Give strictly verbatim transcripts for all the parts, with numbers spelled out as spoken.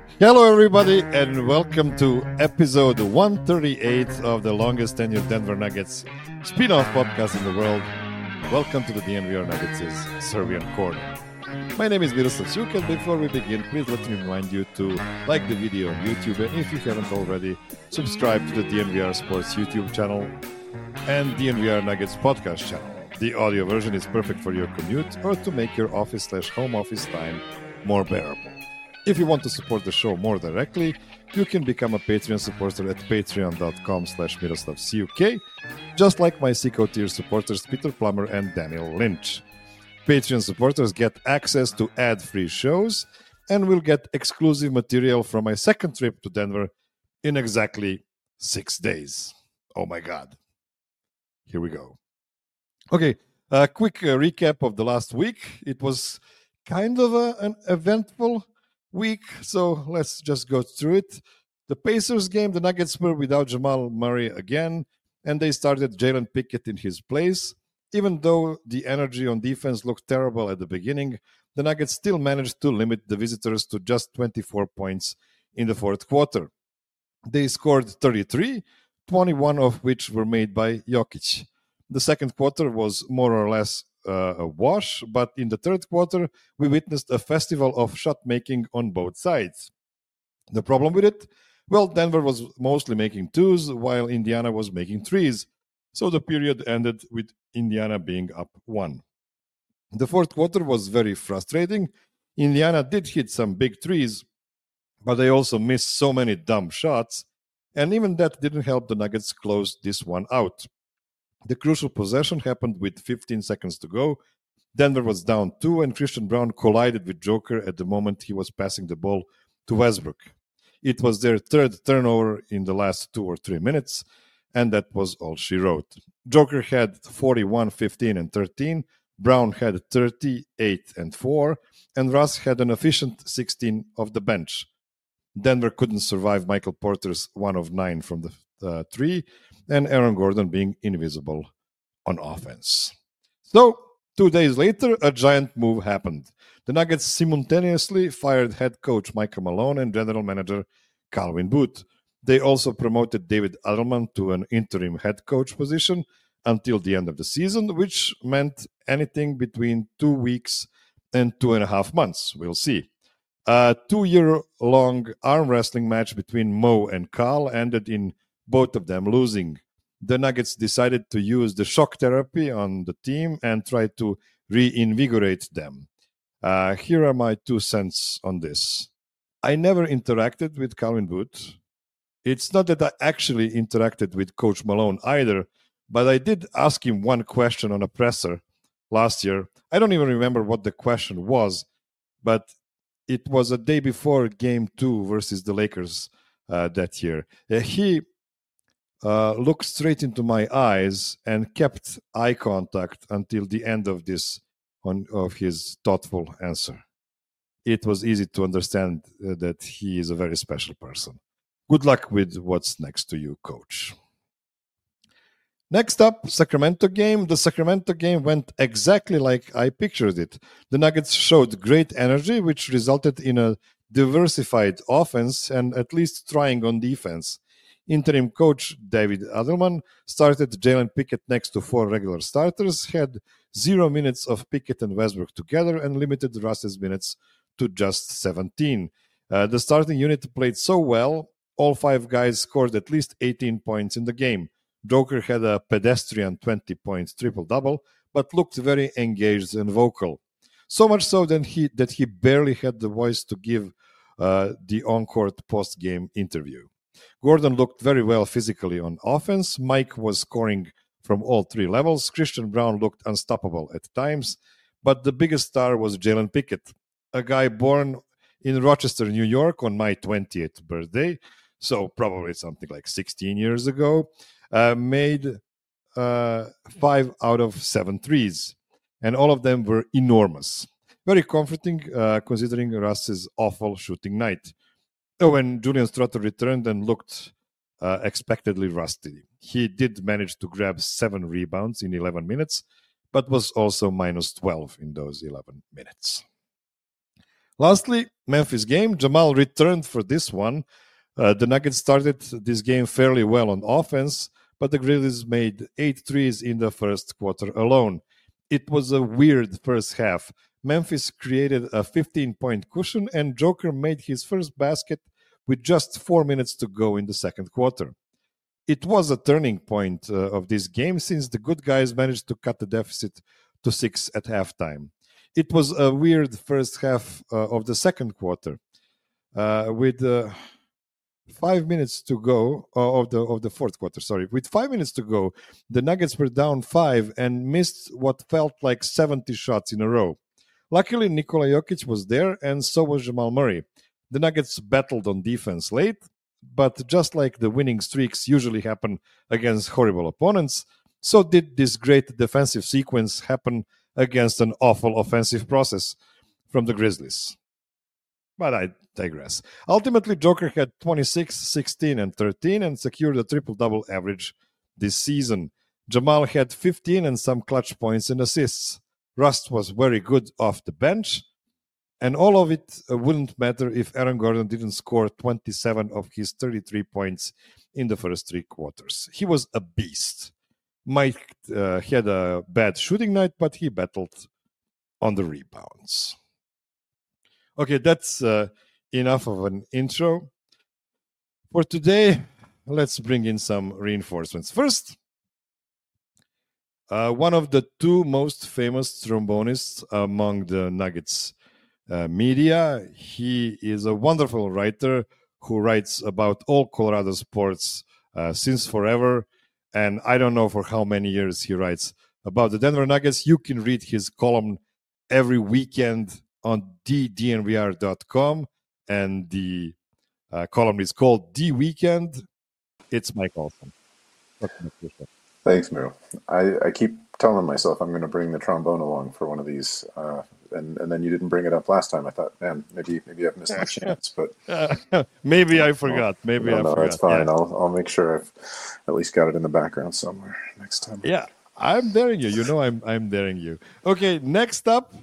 Hello, everybody, and welcome to episode one thirty-eight of the longest tenured Denver Nuggets spin-off podcast in the world. Welcome to the D N V R Nuggets' Serbian Corner. My name is Miroslav Suk, and before we begin, please let me remind you to like the video on YouTube, and if you haven't already, subscribe to the D N V R Sports YouTube channel and D N V R Nuggets podcast channel. The audio version is perfect for your commute or to make your office slash home office time more bearable. If you want to support the show more directly, you can become a Patreon supporter at patreon.com slash miroslavcuk, just like my Seco tier supporters Peter Plummer and Daniel Lynch. Patreon supporters get access to ad-free shows and will get exclusive material from my second trip to Denver in exactly six days. Oh my God. Here we go. Okay, a quick uh, recap of the last week. It was kind of a, an eventful week, so let's just go through it. The Pacers game, the Nuggets were without Jamal Murray again, and they started Jalen Pickett in his place. Even though the energy on defense looked terrible at the beginning, the Nuggets still managed to limit the visitors to just twenty-four points in the fourth quarter. They scored thirty-three, twenty-one of which were made by Jokic. The second quarter was more or less uh, a wash, but in the third quarter, we witnessed a festival of shot making on both sides. The problem with it? Well, Denver was mostly making twos, while Indiana was making threes. So the period ended with Indiana being up one. The fourth quarter was very frustrating. Indiana did hit some big threes, but they also missed so many dumb shots, and even that didn't help the Nuggets close this one out. The crucial possession happened with fifteen seconds to go. Denver was down two, and Christian Braun collided with Joker at the moment he was passing the ball to Westbrook. It was their third turnover in the last two or three minutes, and that was all she wrote. Joker had forty-one, fifteen, and thirteen. Brown had thirty-eight and four, and Russ had an efficient sixteen off the bench. Denver couldn't survive Michael Porter's one of nine from the uh, three, and Aaron Gordon being invisible on offense. So, two days later, a giant move happened. The Nuggets simultaneously fired head coach Michael Malone and general manager Calvin Booth. They also promoted David Adelman to an interim head coach position until the end of the season, which meant anything between two weeks and two and a half months. We'll see. A two-year-long arm wrestling match between Mo and Cal ended in both of them losing. The Nuggets decided to use the shock therapy on the team and try to reinvigorate them. Uh, here are my two cents on this. I never interacted with Calvin Booth. It's not that I actually interacted with Coach Malone either, but I did ask him one question on a presser last year. I don't even remember what the question was, but it was a day before game two versus the Lakers uh, that year. Uh, he uh, looked straight into my eyes and kept eye contact until the end of this on, of his thoughtful answer. It was easy to understand uh, that he is a very special person. Good luck with what's next to you, coach. Next up, Sacramento game. The Sacramento game went exactly like I pictured it. The Nuggets showed great energy, which resulted in a diversified offense and at least trying on defense. Interim coach David Adelman started Jalen Pickett next to four regular starters, had zero minutes of Pickett and Westbrook together, and limited Russ's minutes to just seventeen. Uh, the starting unit played so well, all five guys scored at least eighteen points in the game. Joker had a pedestrian twenty-point triple-double, but looked very engaged and vocal. So much so that he, that he barely had the voice to give uh, the on-court post-game interview. Gordon looked very well physically on offense. Mike was scoring from all three levels. Christian Braun looked unstoppable at times. But the biggest star was Jalen Pickett, a guy born in Rochester, New York on my twentieth birthday, so probably something like sixteen years ago, uh, made uh, five out of seven threes, and all of them were enormous. Very comforting uh, considering Russ's awful shooting night. Oh, when Julian Strother returned and looked uh, expectedly rusty. He did manage to grab seven rebounds in eleven minutes, but was also minus twelve in those eleven minutes. Lastly, Memphis game. Jamal returned for this one. Uh, the Nuggets started this game fairly well on offense, but the Grizzlies made eight threes in the first quarter alone. It was a weird first half. Memphis created a fifteen-point cushion, and Joker made his first basket with just four minutes to go in the second quarter. It was a turning point uh, of this game since the good guys managed to cut the deficit to six at halftime. It was a weird first half uh, of the second quarter. Uh, with uh, five minutes to go uh, of the of the fourth quarter, sorry, with five minutes to go, the Nuggets were down five and missed what felt like seventy shots in a row. Luckily, Nikola Jokic was there, and so was Jamal Murray. The Nuggets battled on defense late, but just like the winning streaks usually happen against horrible opponents, so did this great defensive sequence happen against an awful offensive process from the Grizzlies. But I digress. Ultimately, Joker had twenty-six, sixteen, and thirteen and secured a triple-double average this season. Jamal had fifteen and some clutch points and assists. Rust was very good off the bench, and all of it uh, wouldn't matter if Aaron Gordon didn't score twenty-seven of his thirty-three points in the first three quarters. He was a beast. Mike uh, had a bad shooting night, but he battled on the rebounds. Okay, that's uh, enough of an intro. For today, let's bring in some reinforcements. First, uh, one of the two most famous trombonists among the Nuggets uh, media. He is a wonderful writer who writes about all Colorado sports uh, since forever. And I don't know for how many years he writes about the Denver Nuggets. You can read his column every weekend on the D N V R dot com, and the uh, column is called The Weekend. It's Mike Olson. Thanks, Miro. I, I keep telling myself I'm going to bring the trombone along for one of these, uh, and and then you didn't bring it up last time. I thought, man, maybe maybe I've missed my chance, but uh, maybe I forgot. Maybe no, I no, forgot. that's fine. Yeah. I'll I'll make sure I've at least got it in the background somewhere next time. Yeah, I'm daring you. You know, I'm I'm daring you. Okay, next up.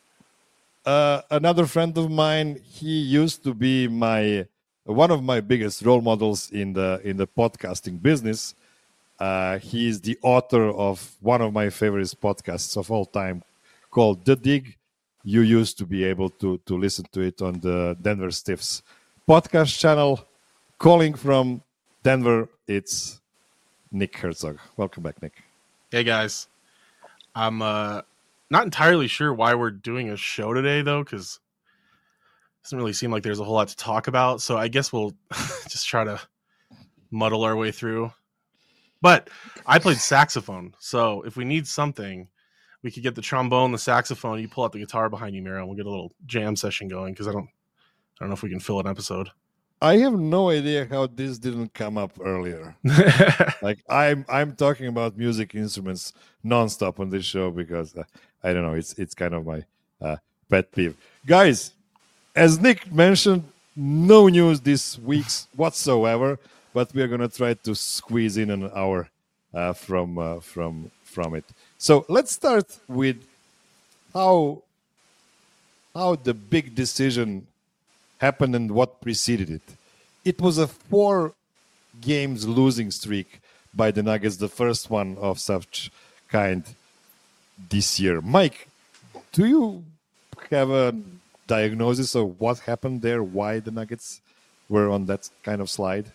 Uh, another friend of mine. He used to be my one of my biggest role models in the in the podcasting business. Uh, he is the author of one of my favorite podcasts of all time, called The Dig. You used to be able to to listen to it on the Denver Stiffs podcast channel. Calling from Denver, it's Nick Herzog. Welcome back, Nick. Hey guys, I'm uh. not entirely sure why we're doing a show today, though, because it doesn't really seem like there's a whole lot to talk about. So I guess we'll just try to muddle our way through. But I played saxophone, so if we need something, we could get the trombone, the saxophone. You pull out the guitar behind you, Miro, and we'll get a little jam session going. Because I don't, I don't know if we can fill an episode. I have no idea how this didn't come up earlier. Like I'm, I'm talking about music instruments nonstop on this show because uh, I don't know. It's it's kind of my uh, pet peeve, guys. As Nick mentioned, no news this week whatsoever, but we are gonna try to squeeze in an hour uh, from uh, from from it. So let's start with how how the big decision happened and what preceded it. It was a four games losing streak by the Nuggets, the first one of such kind this year. Mike, do you have a diagnosis of what happened there, why the Nuggets were on that kind of slide?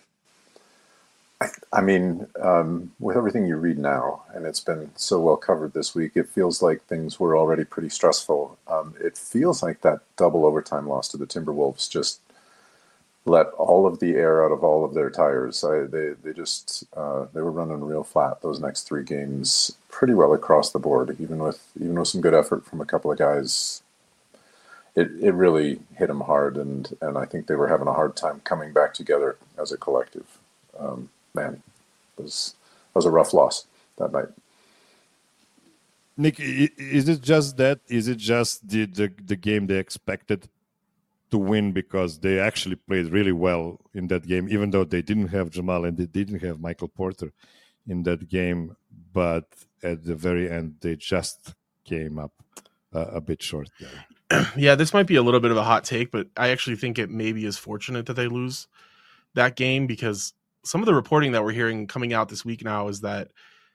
I, I mean, um, with everything you read now, and it's been so well covered this week, it feels like things were already pretty stressful. Um, it feels like that double overtime loss to the Timberwolves just let all of the air out of all of their tires. I, they they just uh, they were running real flat those next three games, pretty well across the board. Even with even with some good effort from a couple of guys, it it really hit them hard, and and I think they were having a hard time coming back together as a collective. Um, man, it was it was a rough loss that night. Nick, is it just that? Is it just the, the, the game they expected to win because they actually played really well in that game, even though they didn't have Jamal and they didn't have Michael Porter in that game, but at the very end they just came up uh, a bit short there? Yeah, this might be a little bit of a hot take, but I actually think it maybe is fortunate that they lose that game, because some of the reporting that we're hearing coming out this week now is that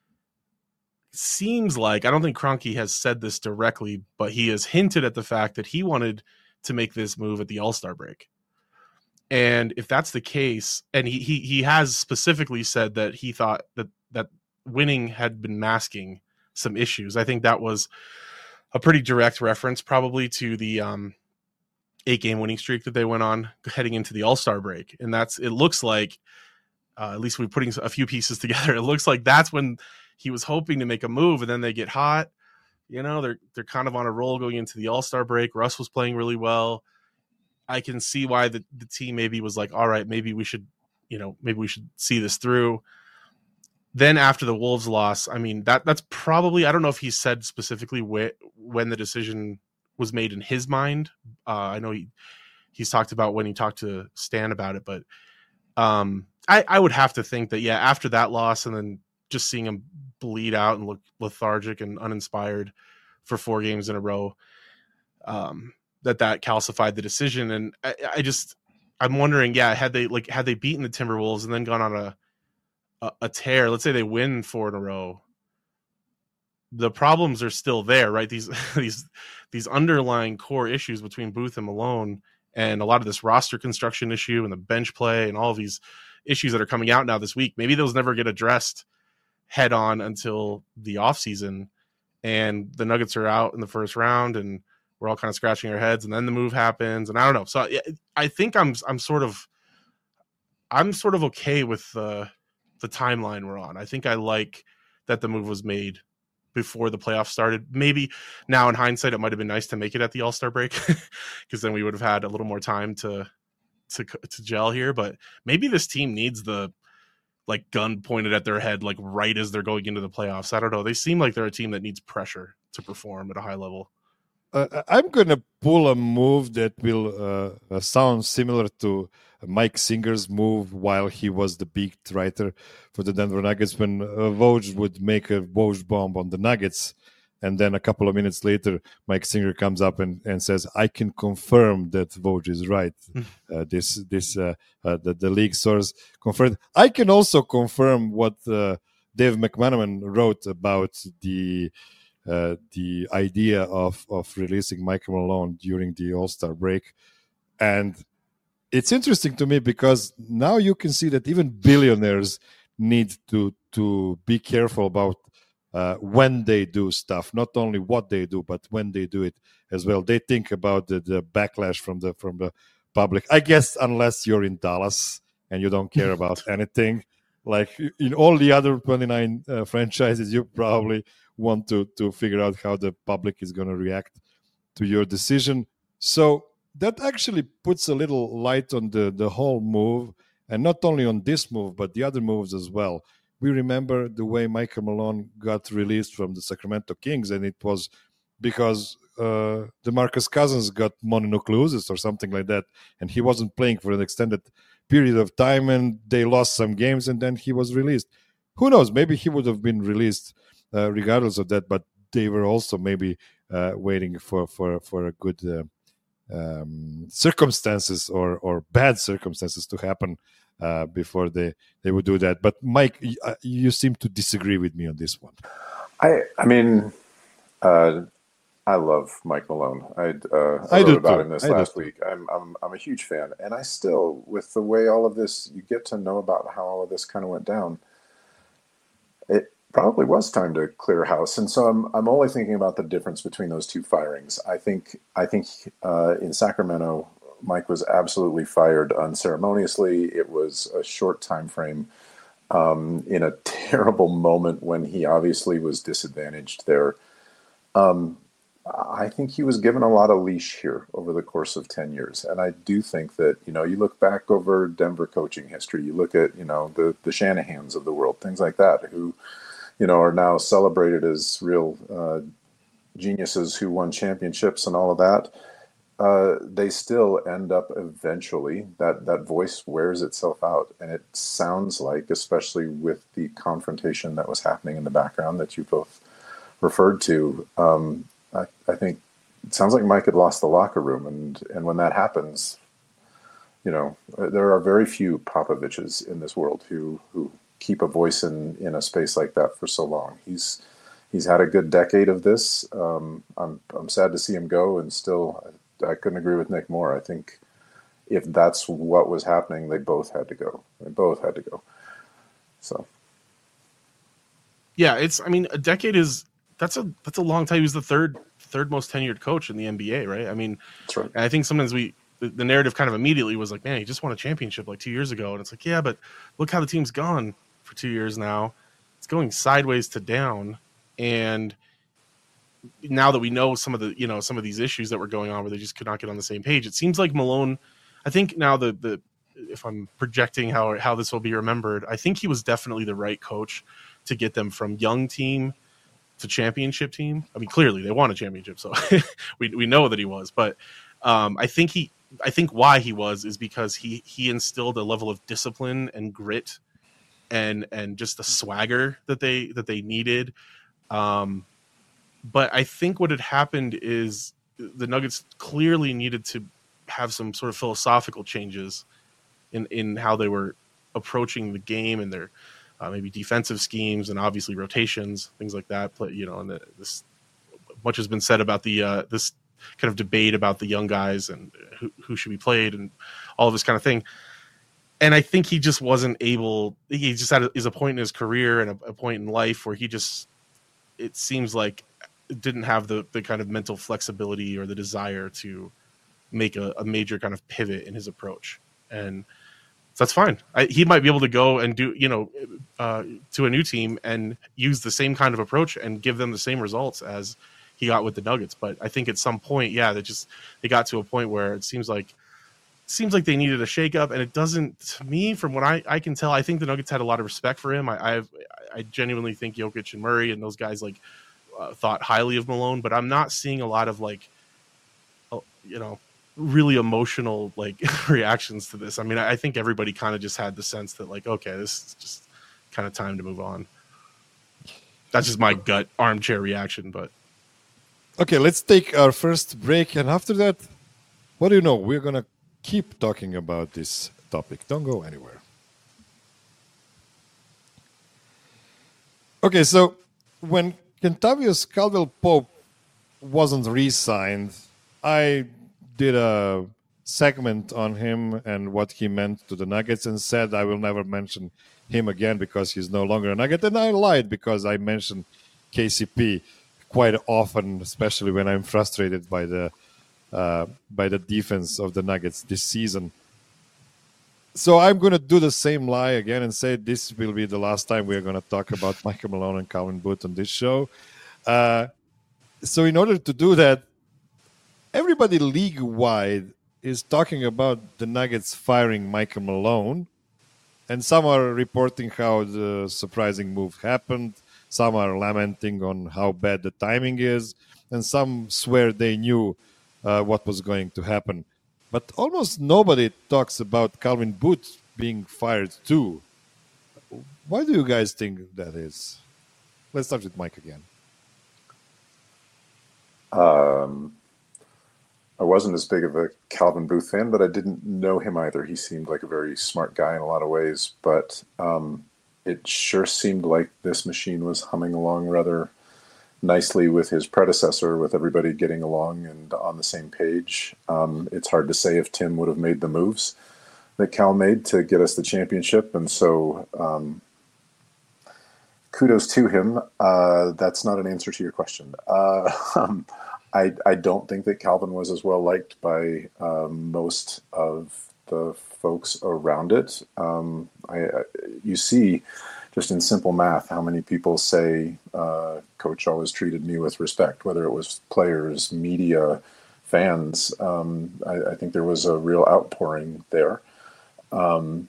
it seems like, I don't think Kroenke has said this directly, but he has hinted at the fact that he wanted to make this move at the All-Star break. And if that's the case, and he he he has specifically said that he thought that that winning had been masking some issues. I think that was a pretty direct reference probably to the um, eight game winning streak that they went on heading into the All-Star break. And that's, it looks like, uh, at least we're putting a few pieces together. It looks like that's when he was hoping to make a move, and then they get hot. You know, they're, they're kind of on a roll going into the All-Star break. Russ was playing really well. I can see why the, the team maybe was like, all right, maybe we should, you know, maybe we should see this through. Then after the Wolves loss, I mean, that that's probably, I don't know if he said specifically wh- when the decision was made in his mind. Uh, I know he he's talked about when he talked to Stan about it, but um, I, I would have to think that, yeah, after that loss and then just seeing him bleed out and look lethargic and uninspired for four games in a row, um, that that calcified the decision. And I, I just, I'm wondering, yeah, had they like, had they beaten the Timberwolves and then gone on a, a, a tear, let's say they win four in a row, the problems are still there, right? These, these, these underlying core issues between Booth and Malone, and a lot of this roster construction issue and the bench play and all of these issues that are coming out now this week, maybe those never get addressed head on until the offseason, and the Nuggets are out in the first round and we're all kind of scratching our heads, and then the move happens, and I don't know. So I think I'm I'm sort of I'm sort of okay with the the timeline we're on. I think I like that the move was made before the playoffs started. Maybe now in hindsight, it might have been nice to make it at the All-Star break, because then we would have had a little more time to to to gel here. But maybe this team needs the like gun pointed at their head, like right as they're going into the playoffs. I don't know. They seem like they're a team that needs pressure to perform at a high level. Uh, I'm going to pull a move that will uh, sound similar to Mike Singer's move while he was the beat writer for the Denver Nuggets, when uh, Woj would make a Woj bomb on the Nuggets. And then a couple of minutes later, Mike Singer comes up and, and says, I can confirm that Woj is right. uh, this this uh, uh, the, the league source confirmed. I can also confirm what uh, Dave McManaman wrote about the Uh, the idea of, of releasing Michael Malone during the All-Star break. And it's interesting to me because now you can see that even billionaires need to, to be careful about uh, when they do stuff, not only what they do, but when they do it as well. They think about the, the backlash from the, from the public. I guess unless you're in Dallas and you don't care about anything, like in all the other twenty-nine uh, franchises, you probably want to to figure out how the public is going to react to your decision. So that actually puts a little light on the the whole move, and not only on this move but the other moves as well. We remember the way Michael Malone got released from the Sacramento Kings, and it was because uh, DeMarcus Cousins got mononucleosis or something like that, and he wasn't playing for an extended period of time, and they lost some games, and then he was released. Who knows? Maybe he would have been released Uh, regardless of that, but they were also maybe uh, waiting for for for a good uh, um, circumstances or or bad circumstances to happen uh, before they they would do that. But Mike, you, uh, you seem to disagree with me on this one. I I mean, uh, I love Mike Malone. I uh, I, I wrote about too. him this I last week. I'm I'm I'm a huge fan, and I still, with the way all of this, you get to know about how all of this kind of went down. It probably was time to clear house, and so I'm I'm only thinking about the difference between those two firings. I think I think uh, in Sacramento, Mike was absolutely fired unceremoniously. It was a short time frame, um, in a terrible moment when he obviously was disadvantaged there. Um, I think he was given a lot of leash here over the course of ten years, and I do think that, you know, you look back over Denver coaching history, you look at, you know, the the Shanahans of the world, things like that, who, you know, are now celebrated as real uh, geniuses who won championships and all of that. Uh, they still end up eventually, that, that voice wears itself out. And it sounds like, especially with the confrontation that was happening in the background that you both referred to, um, I, I think it sounds like Mike had lost the locker room, and and when that happens, you know, there are very few Popoviches in this world who who keep a voice in in a space like that for so long. He's he's had a good decade of this. Um, I'm I'm sad to see him go, and still, I, I couldn't agree with Nick more. I think if that's what was happening, they both had to go. They both had to go. So, yeah, it's. I mean, a decade is that's a that's a long time. He was the third third most tenured coach in the N B A, right? I mean, that's right. And I think sometimes we the, the narrative kind of immediately was like, man, he just won a championship like two years ago, and it's like, yeah, but look how the team's gone for two years now. It's going sideways to down, and now that we know some of the you know some of these issues that were going on where they just could not get on the same page, it seems like Malone. I think now the the if I'm projecting how how this will be remembered, I think he was definitely the right coach to get them from young team to championship team. I mean, clearly they won a championship, so we we know that he was. But um, I think he, I think why he was is because he he instilled a level of discipline and grit, and and just a swagger that they that they needed. Um, but I think what had happened is the Nuggets clearly needed to have some sort of philosophical changes in in how they were approaching the game and their uh, maybe defensive schemes and obviously rotations, things like that. But, you know, and the, this much has been said about the uh, this kind of debate about the young guys and who, who should be played and all of this kind of thing. And I think he just wasn't able. He just had a, is a point in his career and a, a point in life where he just it seems like didn't have the the kind of mental flexibility or the desire to make a, a major kind of pivot in his approach. And so that's fine. I, he might be able to go and do, you know, uh, to a new team and use the same kind of approach and give them the same results as he got with the Nuggets. But I think at some point, yeah, they just, they got to a point where it seems like, seems like they needed a shakeup. And it doesn't, to me, from what I, I can tell, I think the Nuggets had a lot of respect for him. I, I've, I genuinely think Jokic and Murray and those guys like uh, thought highly of Malone, but I'm not seeing a lot of like, uh, you know, really emotional like reactions to this. I mean, I think everybody kind of just had the sense that like, okay, this is just kind of time to move on. That's just my gut armchair reaction. But okay, let's take our first break, and after that, what do you know? We're gonna keep talking about this topic. Don't go anywhere. Okay, so when Kentavious Caldwell-Pope wasn't re-signed, I did a segment on him and what he meant to the Nuggets and said I will never mention him again because he's no longer a Nugget. And I lied because I mentioned K C P quite often, especially when I'm frustrated by the uh, by the defense of the Nuggets this season. So I'm going to do the same lie again and say this will be the last time we're going to talk about Michael Malone and Calvin Booth on this show. Uh, so in order to do that, everybody league-wide is talking about the Nuggets firing Michael Malone, and some are reporting how the surprising move happened, some are lamenting on how bad the timing is, and some swear they knew uh, what was going to happen. But almost nobody talks about Calvin Booth being fired too. Why do you guys think that is? Let's start with Mike again. Um... I wasn't as big of a Calvin Booth fan, but I didn't know him either. He seemed like a very smart guy in a lot of ways, but um, it sure seemed like this machine was humming along rather nicely with his predecessor, with everybody getting along and on the same page. Um, it's hard to say if Tim would have made the moves that Cal made to get us the championship, and so um, kudos to him. Uh, that's not an answer to your question. Uh, um, I, I don't think that Calvin was as well liked by um, most of the folks around it. Um, I, I, you see, just in simple math, how many people say uh, Coach always treated me with respect, whether it was players, media, fans. Um, I, I think there was a real outpouring there. Um,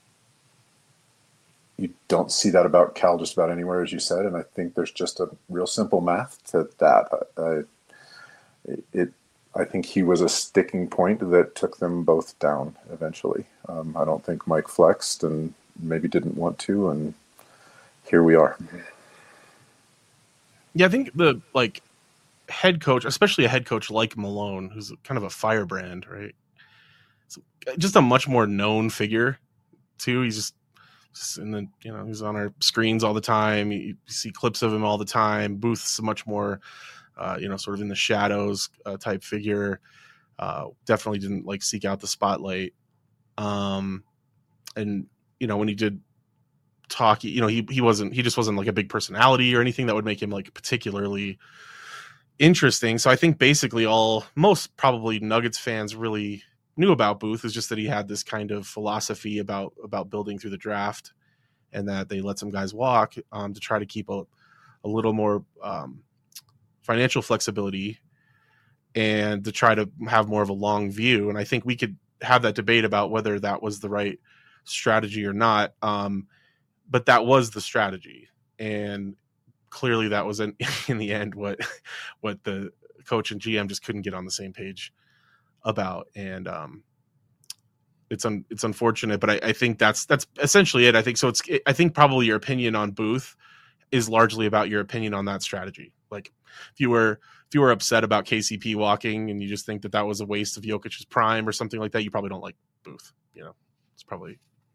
you don't see that about Cal just about anywhere, as you said, and I think there's just a real simple math to that. I, It, I think he was a sticking point that took them both down eventually. Um, I don't think Mike flexed and maybe didn't want to, and here we are. Yeah, I think the like head coach, especially a head coach like Malone, who's kind of a firebrand, right? So just a much more known figure too. He's just, just in the, you know, he's on our screens all the time. You, you see clips of him all the time. Booth's a much more, uh, you know, sort of in the shadows uh, type figure. Uh, definitely didn't like seek out the spotlight. Um, and you know, when he did talk, you know, he he wasn't he just wasn't like a big personality or anything that would make him like particularly interesting. So I think basically all most probably Nuggets fans really knew about Booth is just that he had this kind of philosophy about about building through the draft, and that they let some guys walk um, to try to keep a, a little more um, financial flexibility and to try to have more of a long view. And I think we could have that debate about whether that was the right strategy or not. Um, but that was the strategy. And clearly that was in, in the end what what the coach and G M just couldn't get on the same page about. And um, it's un, it's unfortunate, but I, I think that's that's essentially it. I think so. It's I think probably your opinion on Booth is largely about your opinion on that strategy. Like if you were if you were upset about K C P walking and you just think that that was a waste of Jokic's prime or something like that, you probably don't like Booth. You know, it's probably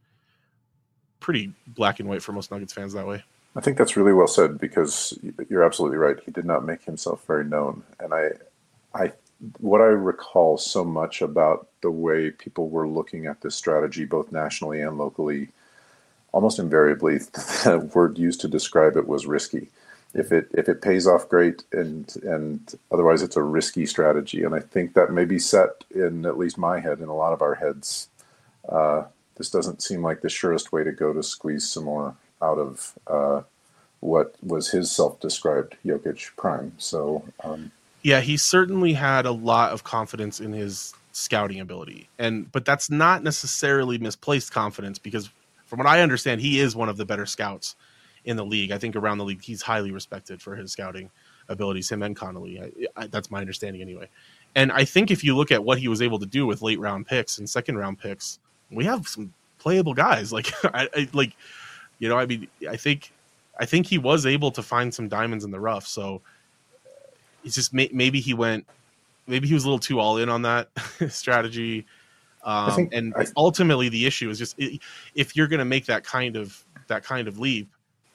pretty black and white for most Nuggets fans that way. I think that's really well said, because you're absolutely right. He did not make himself very known. And I, I, what I recall so much about the way people were looking at this strategy, both nationally and locally, almost invariably, the word used to describe it was risky. If it if it pays off, great, and and otherwise it's a risky strategy. And I think that may be set in at least my head, in a lot of our heads. Uh, this doesn't seem like the surest way to go to squeeze some more out of uh, what was his self-described Jokic prime. So um, yeah, he certainly had a lot of confidence in his scouting ability, and but that's not necessarily misplaced confidence, because from what I understand, he is one of the better scouts in the league. I think around the league, he's highly respected for his scouting abilities, him and Connolly. I, I, that's my understanding anyway. And I think if you look at what he was able to do with late round picks and second round picks, we have some playable guys. Like, I, I like, you know, I mean, I think, I think he was able to find some diamonds in the rough. So it's just may, maybe he went, maybe he was a little too all in on that strategy. Um, I think, and I, ultimately the issue is just, if you're going to make that kind of, that kind of leap,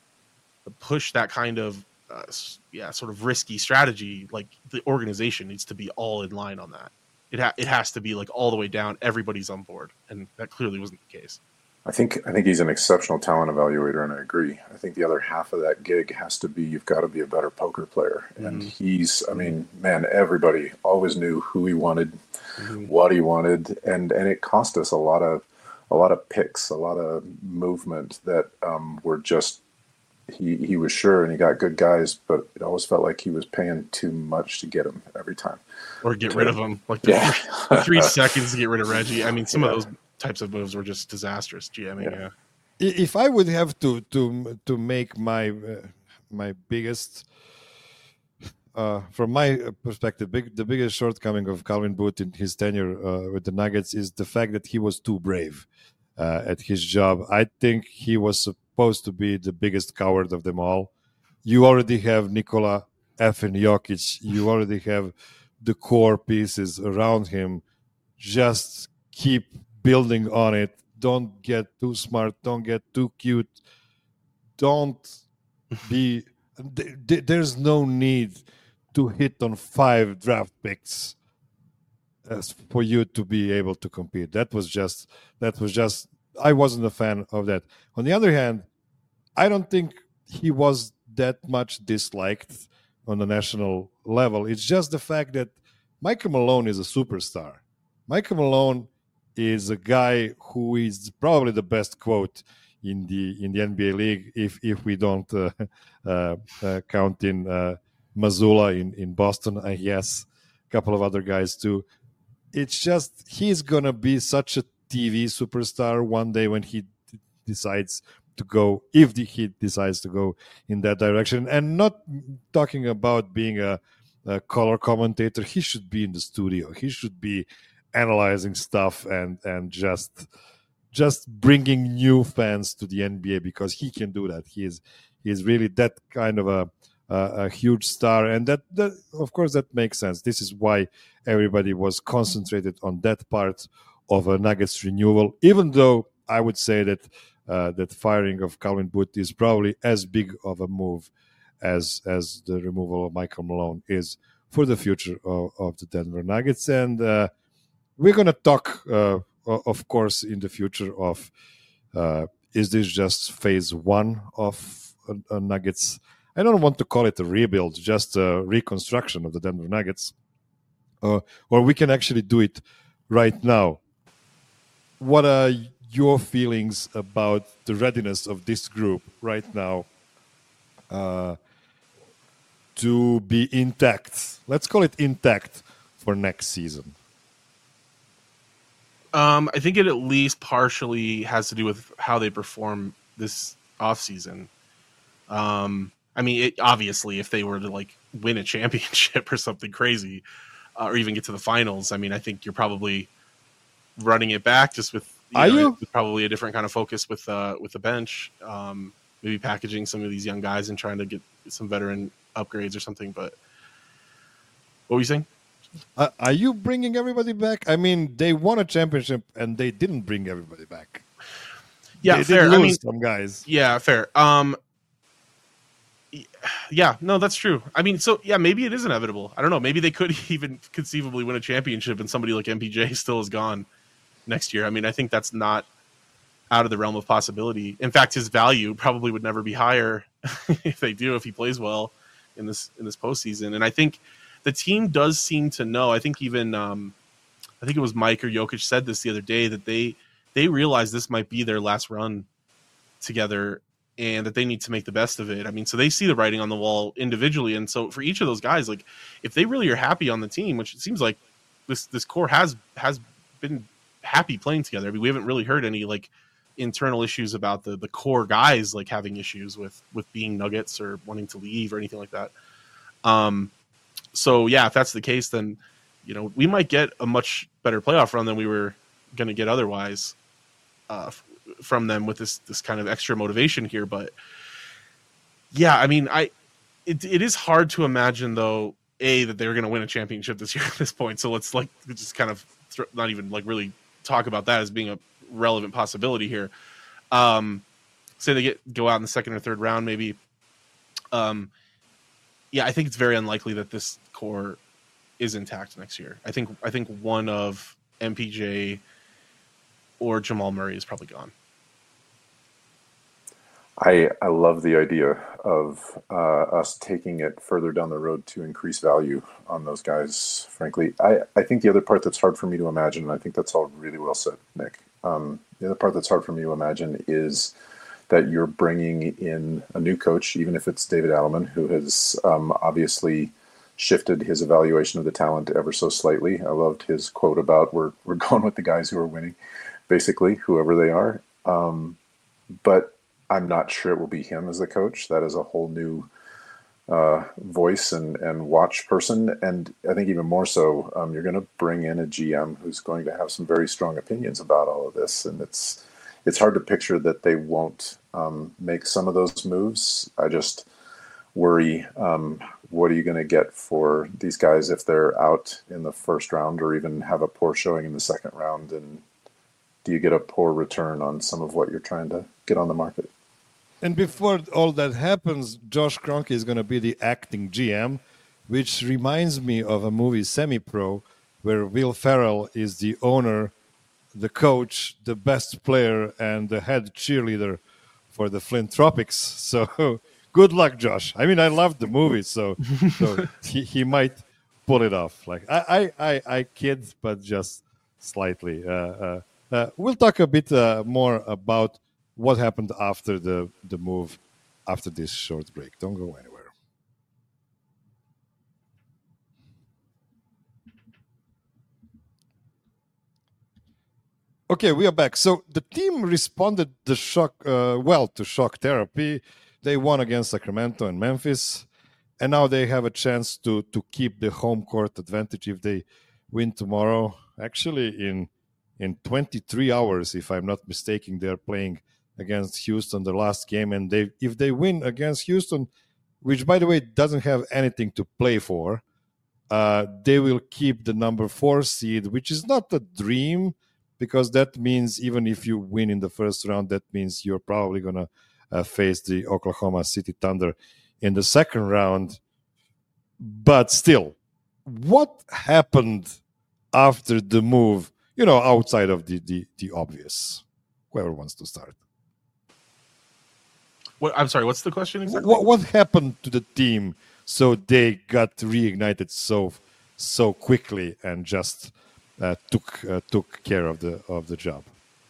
push that kind of uh, yeah sort of risky strategy, like the organization needs to be all in line on that. It ha- it has to be like all the way down, everybody's on board, and that clearly wasn't the case. I think I think he's an exceptional talent evaluator, and I agree. I think the other half of that gig has to be, you've got to be a better poker player. Mm-hmm. And he's, I mean, man, everybody always knew who he wanted, mm-hmm. what he wanted, and and it cost us a lot of a lot of picks, a lot of movement that um, were just. He he was sure, and he got good guys, but it always felt like he was paying too much to get them every time. Or get rid of them. Like the yeah. three, the three seconds to get rid of Reggie. I mean, some yeah. of those types of moves were just disastrous, GMing. Yeah. yeah. If I would have to to to make my uh, my biggest, uh, from my perspective, big, the biggest shortcoming of Calvin Booth in his tenure uh, with the Nuggets is the fact that he was too brave uh, at his job. I think he was supposed to be the biggest coward of them all. You already have Nikola effing Jokic. You already have the core pieces around him. Just keep building on it. Don't get too smart. Don't get too cute. Don't be... There's no need to hit on five draft picks as for you to be able to compete. That was just... That was just... I wasn't a fan of that. On the other hand, I don't think he was that much disliked on the national level. It's just the fact that Michael Malone is a superstar. Michael Malone is a guy who is probably the best quote in the in the N B A league, if if we don't uh, uh, uh, count in uh, Mazzulla in, in Boston, I guess, a couple of other guys too. It's just he's going to be such a T V superstar one day when he d- decides to go, if the, he decides to go in that direction. And not talking about being a, a color commentator, he should be in the studio. He should be analyzing stuff and and just just bringing new fans to the N B A, because he can do that. He is he is really that kind of a uh, a huge star, and that, that of course that makes sense. This is why everybody was concentrated on that part of a Nuggets renewal, even though I would say that uh, that firing of Calvin Booth is probably as big of a move as as the removal of Michael Malone is for the future of, of the Denver Nuggets. And uh, we're going to talk, uh, of course, in the future of uh, is this just phase one of a, a Nuggets? I don't want to call it a rebuild, just a reconstruction of the Denver Nuggets. Uh, or we can actually do it right now. What are your feelings about the readiness of this group right now uh, to be intact? Let's call it intact for next season. Um, I think it at least partially has to do with how they perform this offseason. Um, I mean, it, obviously, if they were to like win a championship or something crazy, uh, or even get to the finals, I mean, I think you're probably running it back just with, you Are know, you? with probably a different kind of focus with uh, with the bench. Um, maybe packaging some of these young guys and trying to get some veteran upgrades or something. But what were you saying? Uh, are you bringing everybody back? I mean, they won a championship and they didn't bring everybody back. Yeah, they fair. did lose I mean, some guys. Yeah, fair. Um, yeah, no, that's true. I mean, so yeah, maybe it is inevitable. I don't know. Maybe they could even conceivably win a championship and somebody like M P J still is gone next year. I mean, I think that's not out of the realm of possibility. In fact, his value probably would never be higher if they do, if he plays well in this in this postseason. And I think the team does seem to know. I think even um, I think it was Mike or Jokic said this the other day that they they realize this might be their last run together and that they need to make the best of it. I mean, so they see the writing on the wall individually. And so for each of those guys, like if they really are happy on the team, which it seems like this this core has has been happy playing together. I mean, we haven't really heard any like internal issues about the the core guys like having issues with with being Nuggets or wanting to leave or anything like that. Um, so yeah, if that's the case, then you know we might get a much better playoff run than we were going to get otherwise uh, f- from them with this this kind of extra motivation here. But yeah, I mean, I it it is hard to imagine though a that they're going to win a championship this year at this point. So let's like just kind of th- not even like really talk about that as being a relevant possibility here. Um, say they get go out in the second or third round, maybe. Um, yeah, I think it's very unlikely that this core is intact next year. I think I think one of M P J or Jamal Murray is probably gone. I, I love the idea of uh, us taking it further down the road to increase value on those guys, frankly. I, I think the other part that's hard for me to imagine, and I think that's all really well said, Nick, um, the other part that's hard for me to imagine is that you're bringing in a new coach, even if it's David Adelman, who has um, obviously shifted his evaluation of the talent ever so slightly. I loved his quote about we're, we're going with the guys who are winning, basically, whoever they are. Um, but I'm not sure it will be him as the coach. That is a whole new uh, voice and, and watch person. And I think even more so, um, you're going to bring in a G M who's going to have some very strong opinions about all of this. And it's it's hard to picture that they won't um, make some of those moves. I just worry, um, what are you going to get for these guys if they're out in the first round or even have a poor showing in the second round? And do you get a poor return on some of what you're trying to get on the market? And before all that happens, Josh Kroenke is going to be the acting G M, which reminds me of a movie, Semi-Pro, where Will Ferrell is the owner, the coach, the best player, and the head cheerleader for the Flint Tropics. So good luck, Josh. I mean, I loved the movie, so, so he, he might pull it off. Like I, I, I, I kid, but just slightly. Uh, uh, uh, we'll talk a bit uh, more about what happened after the, the move after this short break. Don't go anywhere. Okay, we are back. So the team responded the shock uh, well to shock therapy. They won against Sacramento and Memphis, and now they have a chance to to keep the home court advantage if they win tomorrow. Actually, in in twenty-three hours, if I'm not mistaken, they are playing against Houston the last game, and they if they win against Houston, which, by the way, doesn't have anything to play for. Uh, they will keep the number four seed, which is not a dream, because that means even if you win in the first round, that means you're probably going to uh, face the Oklahoma City Thunder in the second round. But still, what happened after the move, you know, outside of the, the, the obvious? Whoever wants to start. What, I'm sorry, what's the question exactly? What, what happened to the team so they got reignited so so quickly and just uh, took uh, took care of the of the job?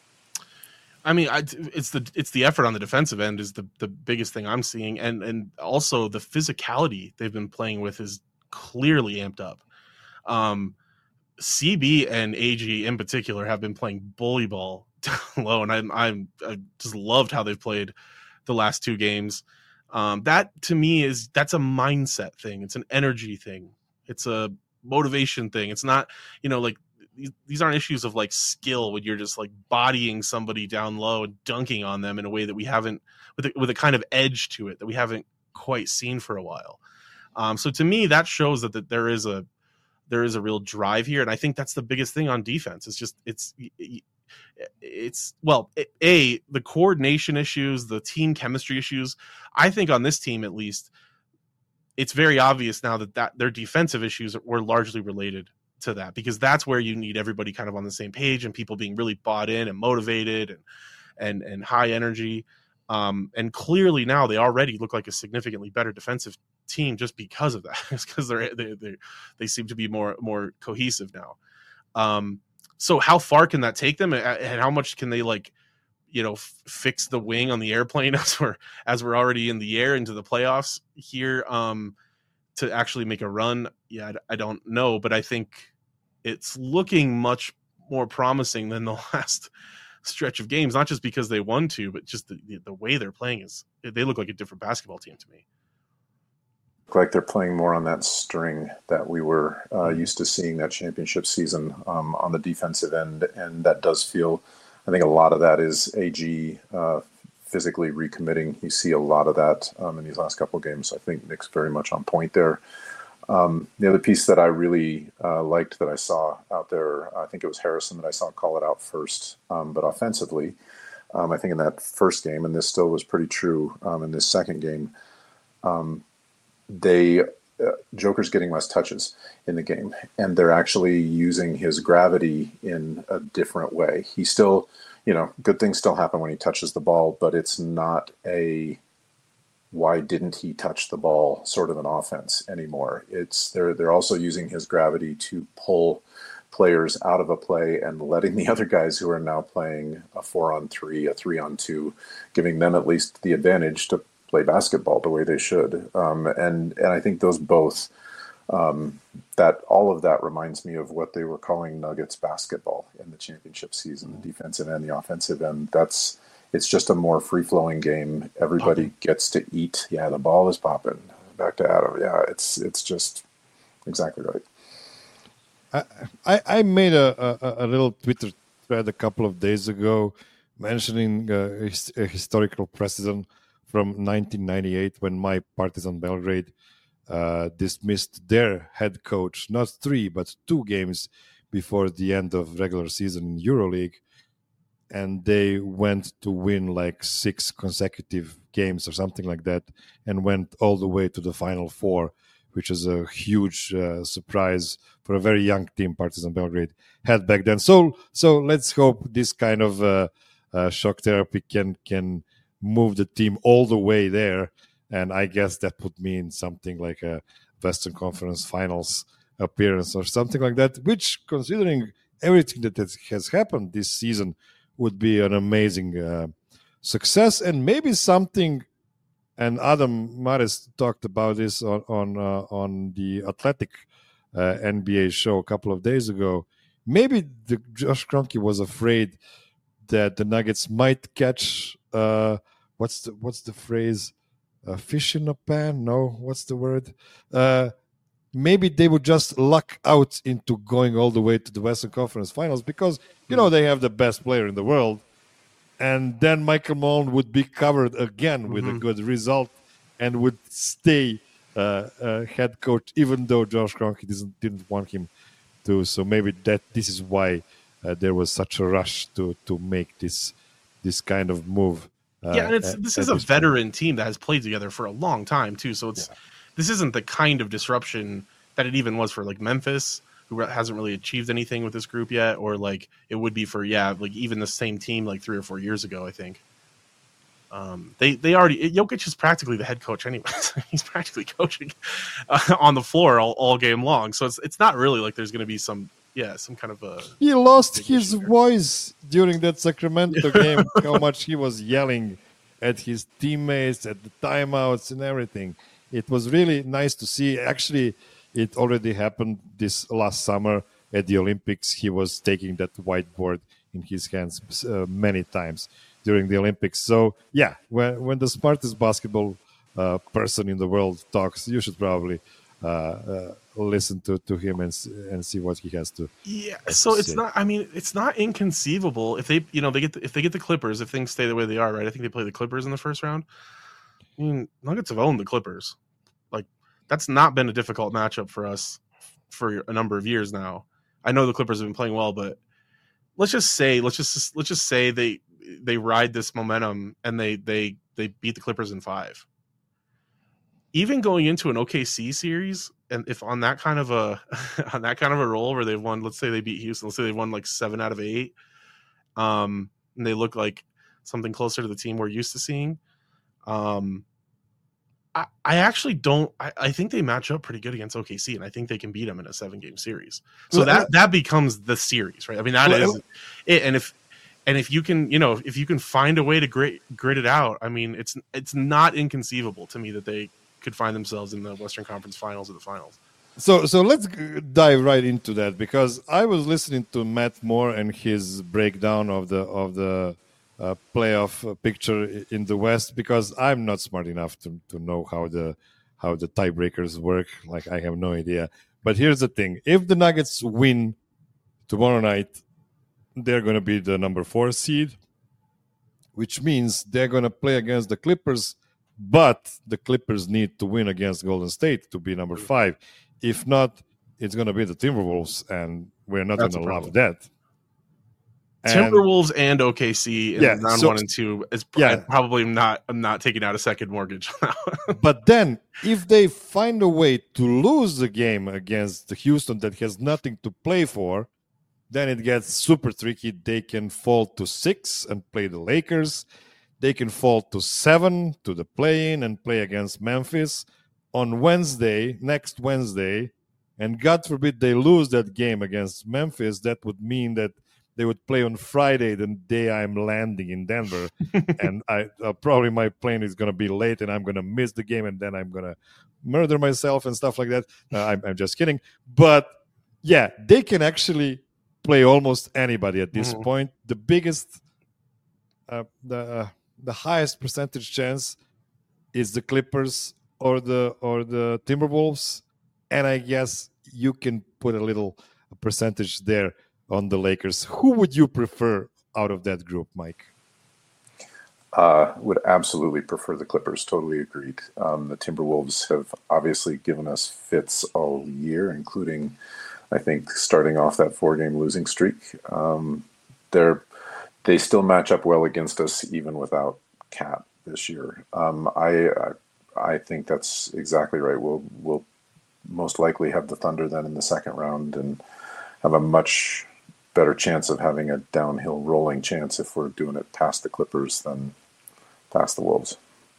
I mean, I, it's the it's the effort on the defensive end is the, the biggest thing I'm seeing, and and also the physicality they've been playing with is clearly amped up. Um, C B and A G in particular have been playing bully ball down low, and I'm I'm I just loved how they've played the last two games. Um, that to me is that's a mindset thing. It's an energy thing. It's a motivation thing. It's not, you know, like these, these aren't issues of like skill when you're just like bodying somebody down low and dunking on them in a way that we haven't, with a, with a kind of edge to it that we haven't quite seen for a while. Um, so to me, that shows that, that there is a there is a real drive here, and I think that's the biggest thing on defense. It's just it's it's well, a the coordination issues, the team chemistry issues. I think on this team, at least, it's very obvious now that, that their defensive issues were largely related to that, because that's where you need everybody kind of on the same page and people being really bought in and motivated and and and high energy. Um, and clearly now they already look like a significantly better defensive team just because of that. It's because they're they they they seem to be more more cohesive now. Um, so how far can that take them, and how much can they like, you know, f- fix the wing on the airplane as we're as we're already in the air into the playoffs here, um, to actually make a run? Yeah, I, I don't know, but I think it's looking much more promising than the last stretch of games, not just because they won two, but just the, the way they're playing is they look like a different basketball team to me. Look like they're playing more on that string that we were uh, used to seeing that championship season um, on the defensive end, and that does feel, I think a lot of that is A G uh, physically recommitting. You see a lot of that um, in these last couple of games. I think Nick's very much on point there. Um, the other piece that I really uh, liked that I saw out there, I think it was Harrison that I saw call it out first, um, but offensively, um, I think in that first game, and this still was pretty true um, in this second game, um, they uh, Joker's getting less touches in the game, and they're actually using his gravity in a different way. He still, you know, good things still happen when he touches the ball, but it's not a why didn't he touch the ball sort of an offense anymore. It's they're they're also using his gravity to pull players out of a play and letting the other guys who are now playing a four on three, a three on two, giving them at least the advantage to play basketball the way they should. Um, and and I think those both um, that all of that reminds me of what they were calling Nuggets basketball in the championship season, the defensive end, the offensive end. That's It's just a more free-flowing game. Everybody popping. Gets to eat. Yeah, the ball is popping. Back to Adam. Yeah, it's it's just exactly right. I I, I made a, a, a little Twitter thread a couple of days ago mentioning uh, a historical precedent from nineteen ninety-eight when my Partizan Belgrade uh, dismissed their head coach, not three, but two games before the end of regular season in EuroLeague. And they went to win like six consecutive games or something like that, and went all the way to the Final Four, which is a huge uh, surprise for a very young team Partizan Belgrade had back then. So, so let's hope this kind of uh, uh, shock therapy can can move the team all the way there. And I guess that would mean something like a Western Conference Finals appearance or something like that. Which, considering everything that has happened this season, would be an amazing uh, success, and maybe something. And Adam Mares talked about this on on, uh, on the Athletic uh, N B A show a couple of days ago. Maybe the Josh Kroenke was afraid that the Nuggets might catch uh, what's the what's the phrase? A fish in a pan? No, what's the word? Uh, maybe they would just luck out into going all the way to the Western Conference Finals because, you know, they have the best player in the world. And then Michael Malone would be covered again with mm-hmm. a good result. and would stay uh, uh, head coach, even though Josh Kroenke didn't didn't want him to. So maybe that this is why uh, there was such a rush to to make this this kind of move. Uh, yeah, and it's at, this at is a this veteran point. team that has played together for a long time too. So it's Yeah. this isn't the kind of disruption that it even was for like Memphis, who hasn't really achieved anything with this group yet, or like it would be for yeah, like even the same team like three or four years ago, I think. Um, they they already Jokic is practically the head coach anyways. He's practically coaching uh, on the floor all, all game long. So it's it's not really like there's going to be some yeah some kind of a. He lost big his issue there. voice during that Sacramento game. How much he was yelling at his teammates at the timeouts and everything. It was really nice to see. Actually, it already happened this last summer at the Olympics. He was taking that whiteboard in his hands uh, many times during the Olympics. So yeah, when when the smartest basketball uh, person in the world talks, you should probably uh, uh, listen to, to him and s- and see what he has to. Yeah, has so to it's say. not. I mean, it's not inconceivable if they, you know, they get the, if they get the Clippers, if things stay the way they are, right? I think they play the Clippers in the first round. I mean, Nuggets have owned the Clippers. Like that's not been a difficult matchup for us for a number of years now. I know the Clippers have been playing well, but let's just say, let's just let's just say they they ride this momentum and they they they beat the Clippers in five. Even going into an O K C series, and if on that kind of a on that kind of a roll where they've won, let's say they beat Houston, let's say they won like seven out of eight, um, and they look like something closer to the team we're used to seeing. Um, I, I actually don't. I, I think they match up pretty good against O K C, and I think they can beat them in a seven-game series. So Well, that uh, that becomes the series, right? I mean, that Well, is it. And if and if you can, you know, if you can find a way to grit grit it out, I mean, it's it's not inconceivable to me that they could find themselves in the Western Conference Finals or the Finals. So, so let's g- dive right into that because I was listening to Matt Moore and his breakdown of the of the uh, playoff uh, picture i- in the West because I'm not smart enough to, to know how the how the tiebreakers work. Like I have no idea. But here's the thing: if the Nuggets win tomorrow night, they're going to be the number four seed, which means they're going to play against the Clippers. But the Clippers need to win against Golden State to be number five. If not, it's going to be the Timberwolves, and we're not going That's to a love problem. that. And Timberwolves and O K C in Yeah, round so- one and two is Yeah. yeah. probably not. I'm not taking out a second mortgage. but then, if they find a way to lose the game against Houston that has nothing to play for, then it gets super tricky. They can fall to six and play the Lakers. They can fall to seven to the play-in and play against Memphis on Wednesday, next Wednesday. And God forbid they lose that game against Memphis. That would mean that they would play on Friday, the day I'm landing in Denver. and I uh, probably my plane is going to be late and I'm going to miss the game and then I'm going to murder myself and stuff like that. Uh, I'm, I'm just kidding. But yeah, they can actually play almost anybody at this Mhm. point. The biggest, uh, the uh, the highest percentage chance is the Clippers or the or the Timberwolves, and I guess you can put a little percentage there on the Lakers. Who would you prefer out of that group, Mike? Uh, would absolutely prefer the Clippers. Totally agreed. Um, the Timberwolves have obviously given us fits all year, including, I think, starting off that four-game losing streak. Um, they're they still match up well against us, even without Cat this year. Um, I, I I think that's exactly right. We'll we'll most likely have the Thunder then in the second round, and have a much better chance of having a downhill rolling chance if we're doing it past the Clippers than past the Wolves.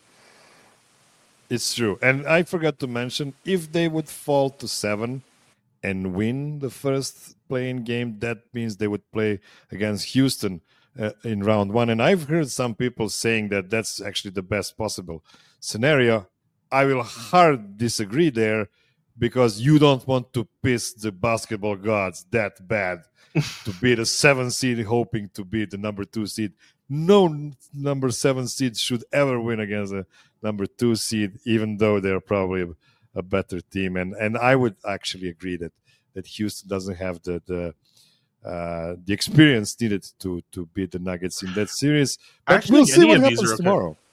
It's true. And I forgot to mention, if they would fall to seven and win the first playing game, that means they would play against Houston uh, in round one. And I've heard some people saying that that's actually the best possible scenario. I will hard disagree there because you don't want to piss the basketball gods that bad to be the seven seed hoping to be the number two seed. No n- number seven seed should ever win against a number two seed, even though they're probably a, a better team. And and I would actually agree that that Houston doesn't have the the uh, the experience needed to to beat the Nuggets in that series. But Actually, we'll see any what of these happens are okay. tomorrow.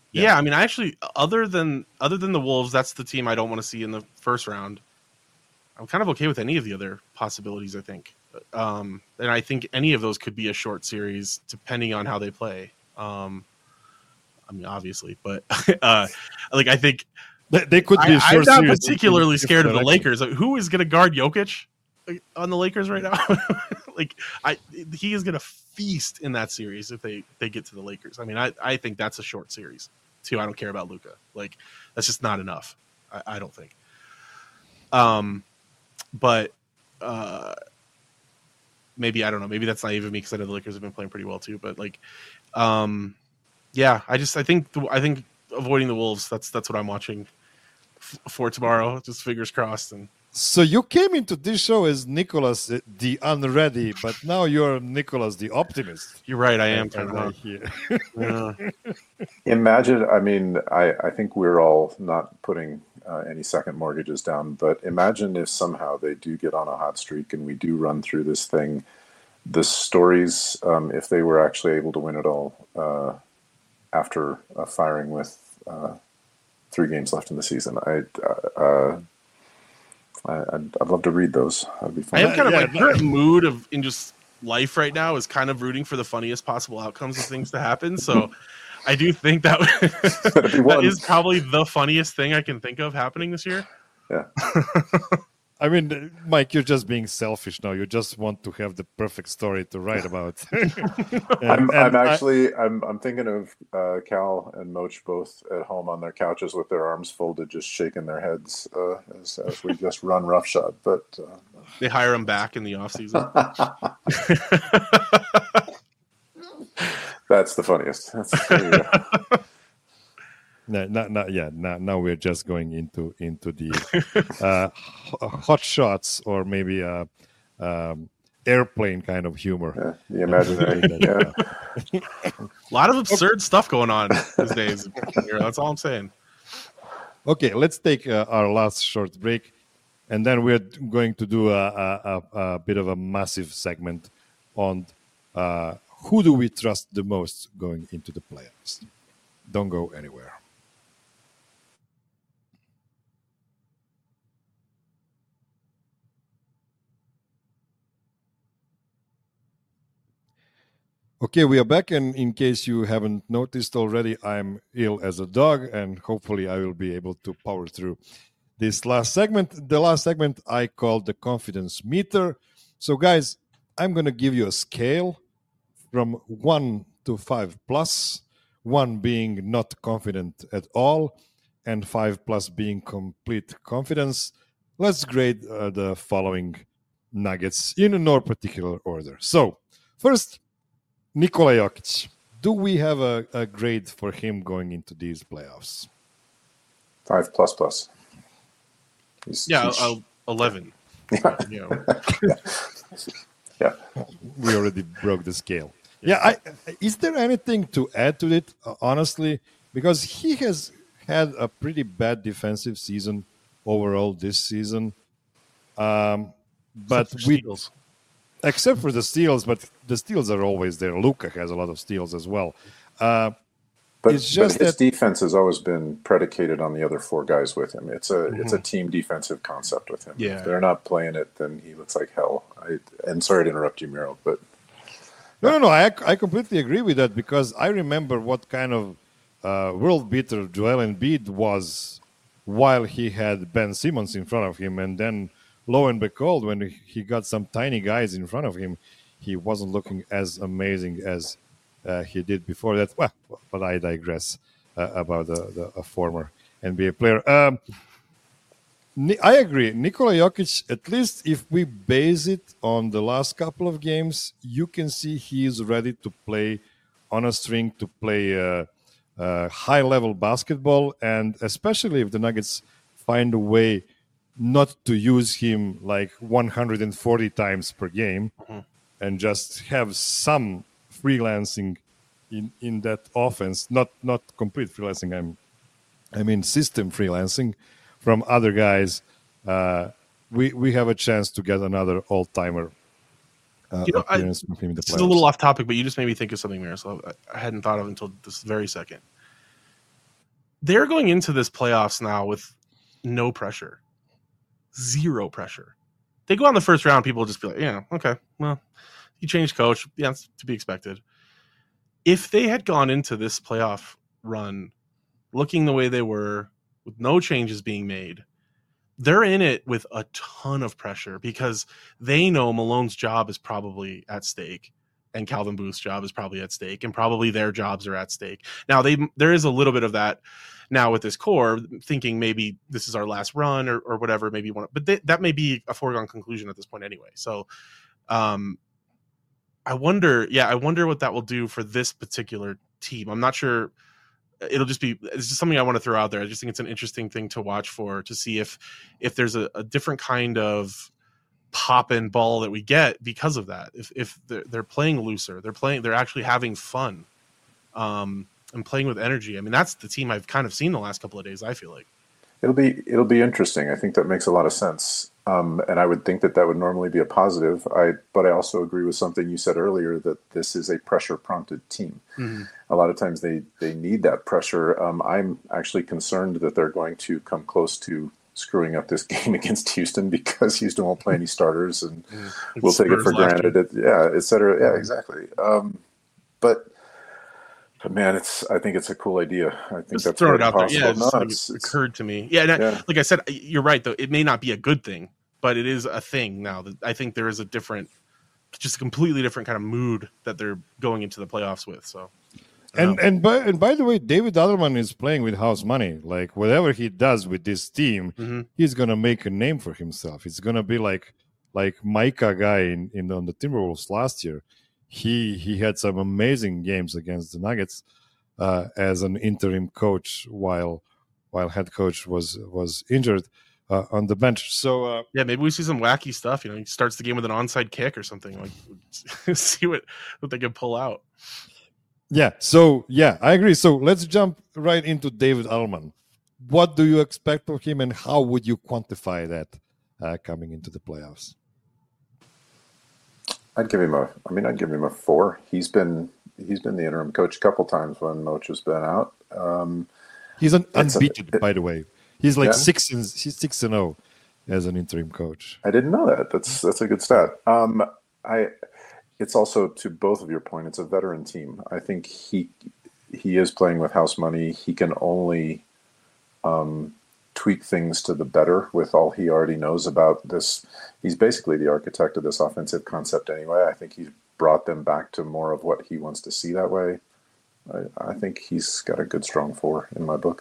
Yeah. yeah, I mean, I actually, other than other than the Wolves, that's the team I don't want to see in the first round. I'm kind of okay with any of the other possibilities, I think. Um, and I think any of those could be a short series, depending on how they play. Um, I mean, obviously, but uh, like I think they, they could be. I, a short I'm not series particularly scared of the direction. Lakers. Like, who is going to guard Jokic on the Lakers right now? Like, I he is going to feast in that series if they they get to the Lakers. I mean, I I think that's a short series too. I don't care about Luka. Like, that's just not enough. I, I don't think. Um. But uh, maybe, I don't know, maybe that's naive of me because I know the Lakers have been playing pretty well too. But like, um, yeah, I just I think I think avoiding the Wolves. That's that's what I'm watching f- for tomorrow. Just fingers crossed. And so you came into this show as Nicholas the unready, but now you're Nicholas the optimist. You're right. I am kind of here. Yeah. Imagine, I mean, I, I think we're all not putting uh, any second mortgages down, but imagine if somehow they do get on a hot streak and we do run through this thing, the stories, um, if they were actually able to win it all uh, after uh, firing with uh, three games left in the season. I, uh, I, I'd, I'd love to read those. That'd be fun. I am kind of Yeah, like no. current mood of in just life right now is kind of rooting for the funniest possible outcomes of things to happen. So I do think that that is probably the funniest thing I can think of happening this year. Yeah. I mean, Mike, you're just being selfish now. You just want to have the perfect story to write about. and, I'm, and I'm I- actually, I'm, I'm thinking of uh, Cal and Moch both at home on their couches with their arms folded, just shaking their heads uh, as, as we just run roughshod. But uh, They hire him back in the offseason. that's the funniest. That's, there you go. No, not, not yet. Now, now we're just going into into the uh, h- hot shots or maybe a um, airplane kind of humor. Yeah, the imaginary. Yeah. A lot of absurd stuff going on these days. That's all I'm saying. Okay, let's take uh, our last short break, and then we're going to do a, a, a, a bit of a massive segment on uh, who do we trust the most going into the playoffs. Don't go anywhere. Okay, we are back, and in case you haven't noticed already, I'm ill as a dog, and hopefully I will be able to power through this last segment. The last segment I called the confidence meter. So, guys, I'm going to give you a scale from one to five plus, one being not confident at all, and five plus being complete confidence. Let's grade uh, the following nuggets in no particular order. So, first, Nikola Jokic. Do we have a, a grade for him going into these playoffs? Five plus plus. He's, Yeah, he's- uh, eleven. Yeah. You know. yeah. We already broke the scale. Yeah, I, is there anything to add to it, uh, honestly? Because he has had a pretty bad defensive season overall this season. Um, but Except for we, Steals. except for the steals, but the steals are always there. Luka has a lot of steals as well. Uh, But, It's just but his that- defense has always been predicated on the other four guys with him. It's a it's a team defensive concept with him. Yeah. If they're not playing it, then he looks like hell. I, and sorry to interrupt you, Miro, but No, no, no. I, I completely agree with that because I remember what kind of uh, world beater Joel Embiid was while he had Ben Simmons in front of him. And then, lo and behold, when he got some tiny guys in front of him, he wasn't looking as amazing as uh, he did before that. Well, but I digress uh, about the, the a former N B A player. Um, Ni- I agree. Nikola Jokic, at least if we base it on the last couple of games, you can see he is ready to play on a string, to play uh, uh, high level basketball. And especially if the Nuggets find a way not to use him like one hundred forty times per game Mhm. and just have some freelancing in, in that offense, not not complete freelancing, I'm, I mean system freelancing from other guys, uh, we we have a chance to get another all-timer uh, You know, I- appearance from him in the This is a little playoffs. off topic, but you just made me think of something, Miroslav. I I hadn't thought of until this very second. they're going into this playoffs now with no pressure, zero pressure. They go on the first round, people will just be like, yeah, okay, well, you changed coach. Yeah, it's to be expected. If they had gone into this playoff run looking the way they were, with no changes being made, they're in it with a ton of pressure because they know Malone's job is probably at stake and Calvin Booth's job is probably at stake and probably their jobs are at stake. Now, they there is a little bit of that now with this core, thinking maybe this is our last run or, or whatever, maybe one, but they, that may be a foregone conclusion at this point anyway. So um, I wonder, yeah, I wonder what that will do for this particular team. I'm not sure. It'll just be, it's just something I want to throw out there. I just think it's an interesting thing to watch for, to see if, if there's a, a different kind of pop and ball that we get because of that. If, if they're, they're playing looser, they're playing, they're actually having fun. Um, and playing with energy. I mean, that's the team I've kind of seen the last couple of days, I feel like. It'll be it'll be interesting. I think that makes a lot of sense. Um, and I would think that that would normally be a positive. I But I also agree with something you said earlier, that this is a pressure-prompted team. Mm-hmm. A lot of times they, they need that pressure. Um, I'm actually concerned that they're going to come close to screwing up this game against Houston because Houston won't play any starters and yeah, we'll take it for granted. It, yeah, et cetera. Yeah, exactly. Um, but... But man, it's. I think it's a cool idea. I think just that's throwing it out possible. there. Yeah, no, like it's, it it's, occurred to me. Yeah, and yeah, I, like I said, you're right. Though it may not be a good thing, but it is a thing now. That I think there is a different, just a completely different kind of mood that they're going into the playoffs with. So, and know. and by and by the way, David Adelman is playing with house money. Like whatever he does with this team, mm-hmm. he's gonna make a name for himself. It's gonna be like like Micah guy in, in on the Timberwolves last year. He he had some amazing games against the Nuggets. Uh, as an interim coach while while head coach was was injured uh, on the bench. So uh, yeah, maybe we see some wacky stuff. You know, he starts the game with an onside kick or something. Like, see what what they can pull out. Yeah. So yeah, I agree. So let's jump right into David Adelman. What do you expect of him, and how would you quantify that uh, coming into the playoffs? I'd give him a. I mean, I'd give him a four. He's been. He's been the interim coach a couple times when Moch has been out. Um, he's an unbeaten, a, it, by the way. He's like yeah. six and he's six and zero as an interim coach. I didn't know that. That's that's a good stat. Um, I. It's also, to both of your point, it's a veteran team. I think he he is playing with house money. He can only um, tweak things to the better with all he already knows about this. He's basically the architect of this offensive concept anyway. I think he's brought them back to more of what he wants to see that way. I, I think he's got a good strong four in my book.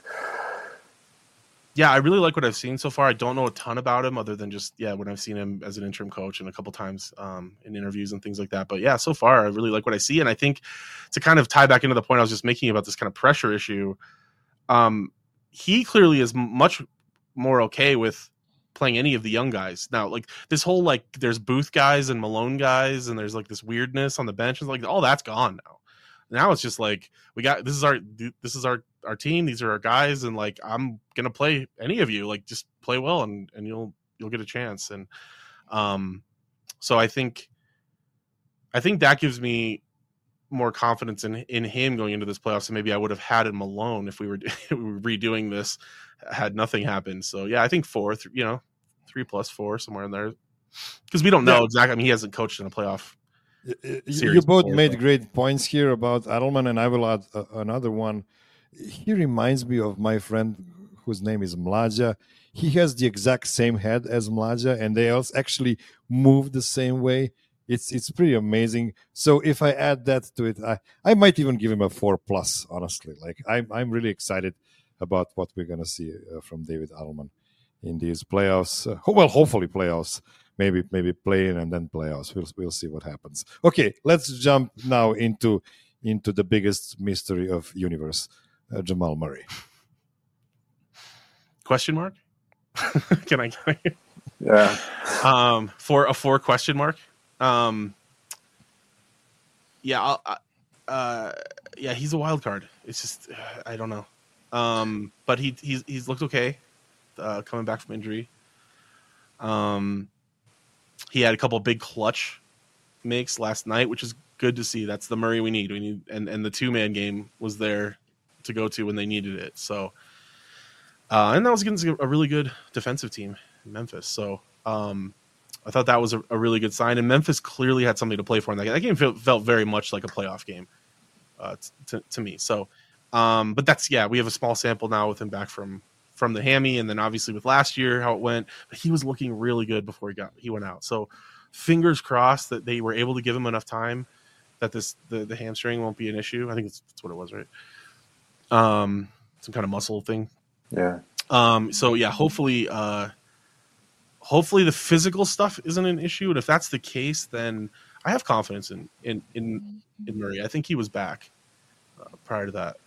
Yeah, I really like what I've seen so far. I don't know a ton about him other than just, yeah, when I've seen him as an interim coach and a couple times um, in interviews and things like that. But yeah, so far, I really like what I see. And I think to kind of tie back into the point I was just making about this kind of pressure issue, um, he clearly is much more okay with playing any of the young guys. Now, like this whole, like there's Booth guys and Malone guys, and there's like this weirdness on the bench. It's like, all that's gone now. Now it's just like, we got, this is our, this is our, our team. These are our guys. And like, I'm going to play any of you, like just play well and, and you'll, you'll get a chance. And um, so I think, I think that gives me more confidence in, in him going into this playoffs than maybe I would have had in Malone if we were, we were redoing this, had nothing happened. So yeah, I think four, th- you know, three plus four, somewhere in there. Because we don't know yeah. exactly. I mean, he hasn't coached in a playoff. You both before, made so. great points here about Adelman, and I will add uh, another one. He reminds me of my friend whose name is Mlađa. He has the exact same head as Mlađa, and they also actually move the same way. It's it's pretty amazing. So if I add that to it, I, I might even give him a four plus, honestly. Like I'm I'm really excited about what we're going to see uh, from David Adelman in these playoffs. Uh, well, hopefully playoffs. Maybe maybe play in and then playoffs. We'll we'll see what happens. Okay, let's jump now into into the biggest mystery of universe, uh, Jamal Murray. Question mark? Can I? Can I? Yeah. Um, for a four question mark. Um. Yeah. I'll, I, uh. Yeah. He's a wild card. It's just uh, I don't know. Um. But he he's he's looked okay. Uh, coming back from injury. Um. He had a couple of big clutch makes last night, which is good to see. That's the Murray we need. We need, and, and the two man game was there to go to when they needed it. So uh, and that was against a really good defensive team in Memphis. So um, I thought that was a, a really good sign. And Memphis clearly had something to play for in that game. That game felt, felt very much like a playoff game uh, to, to me. So, um, but that's yeah, we have a small sample now with him back from from the hammy, and then obviously with last year how it went. But he was looking really good before he got he went out. So fingers crossed that they were able to give him enough time that this the, the hamstring won't be an issue. I think that's, that's what it was, right? Um, some kind of muscle thing. Yeah. Um, so yeah, hopefully, uh, hopefully the physical stuff isn't an issue. And if that's the case, then I have confidence in, in, in, in Murray. I think he was back uh, prior to that.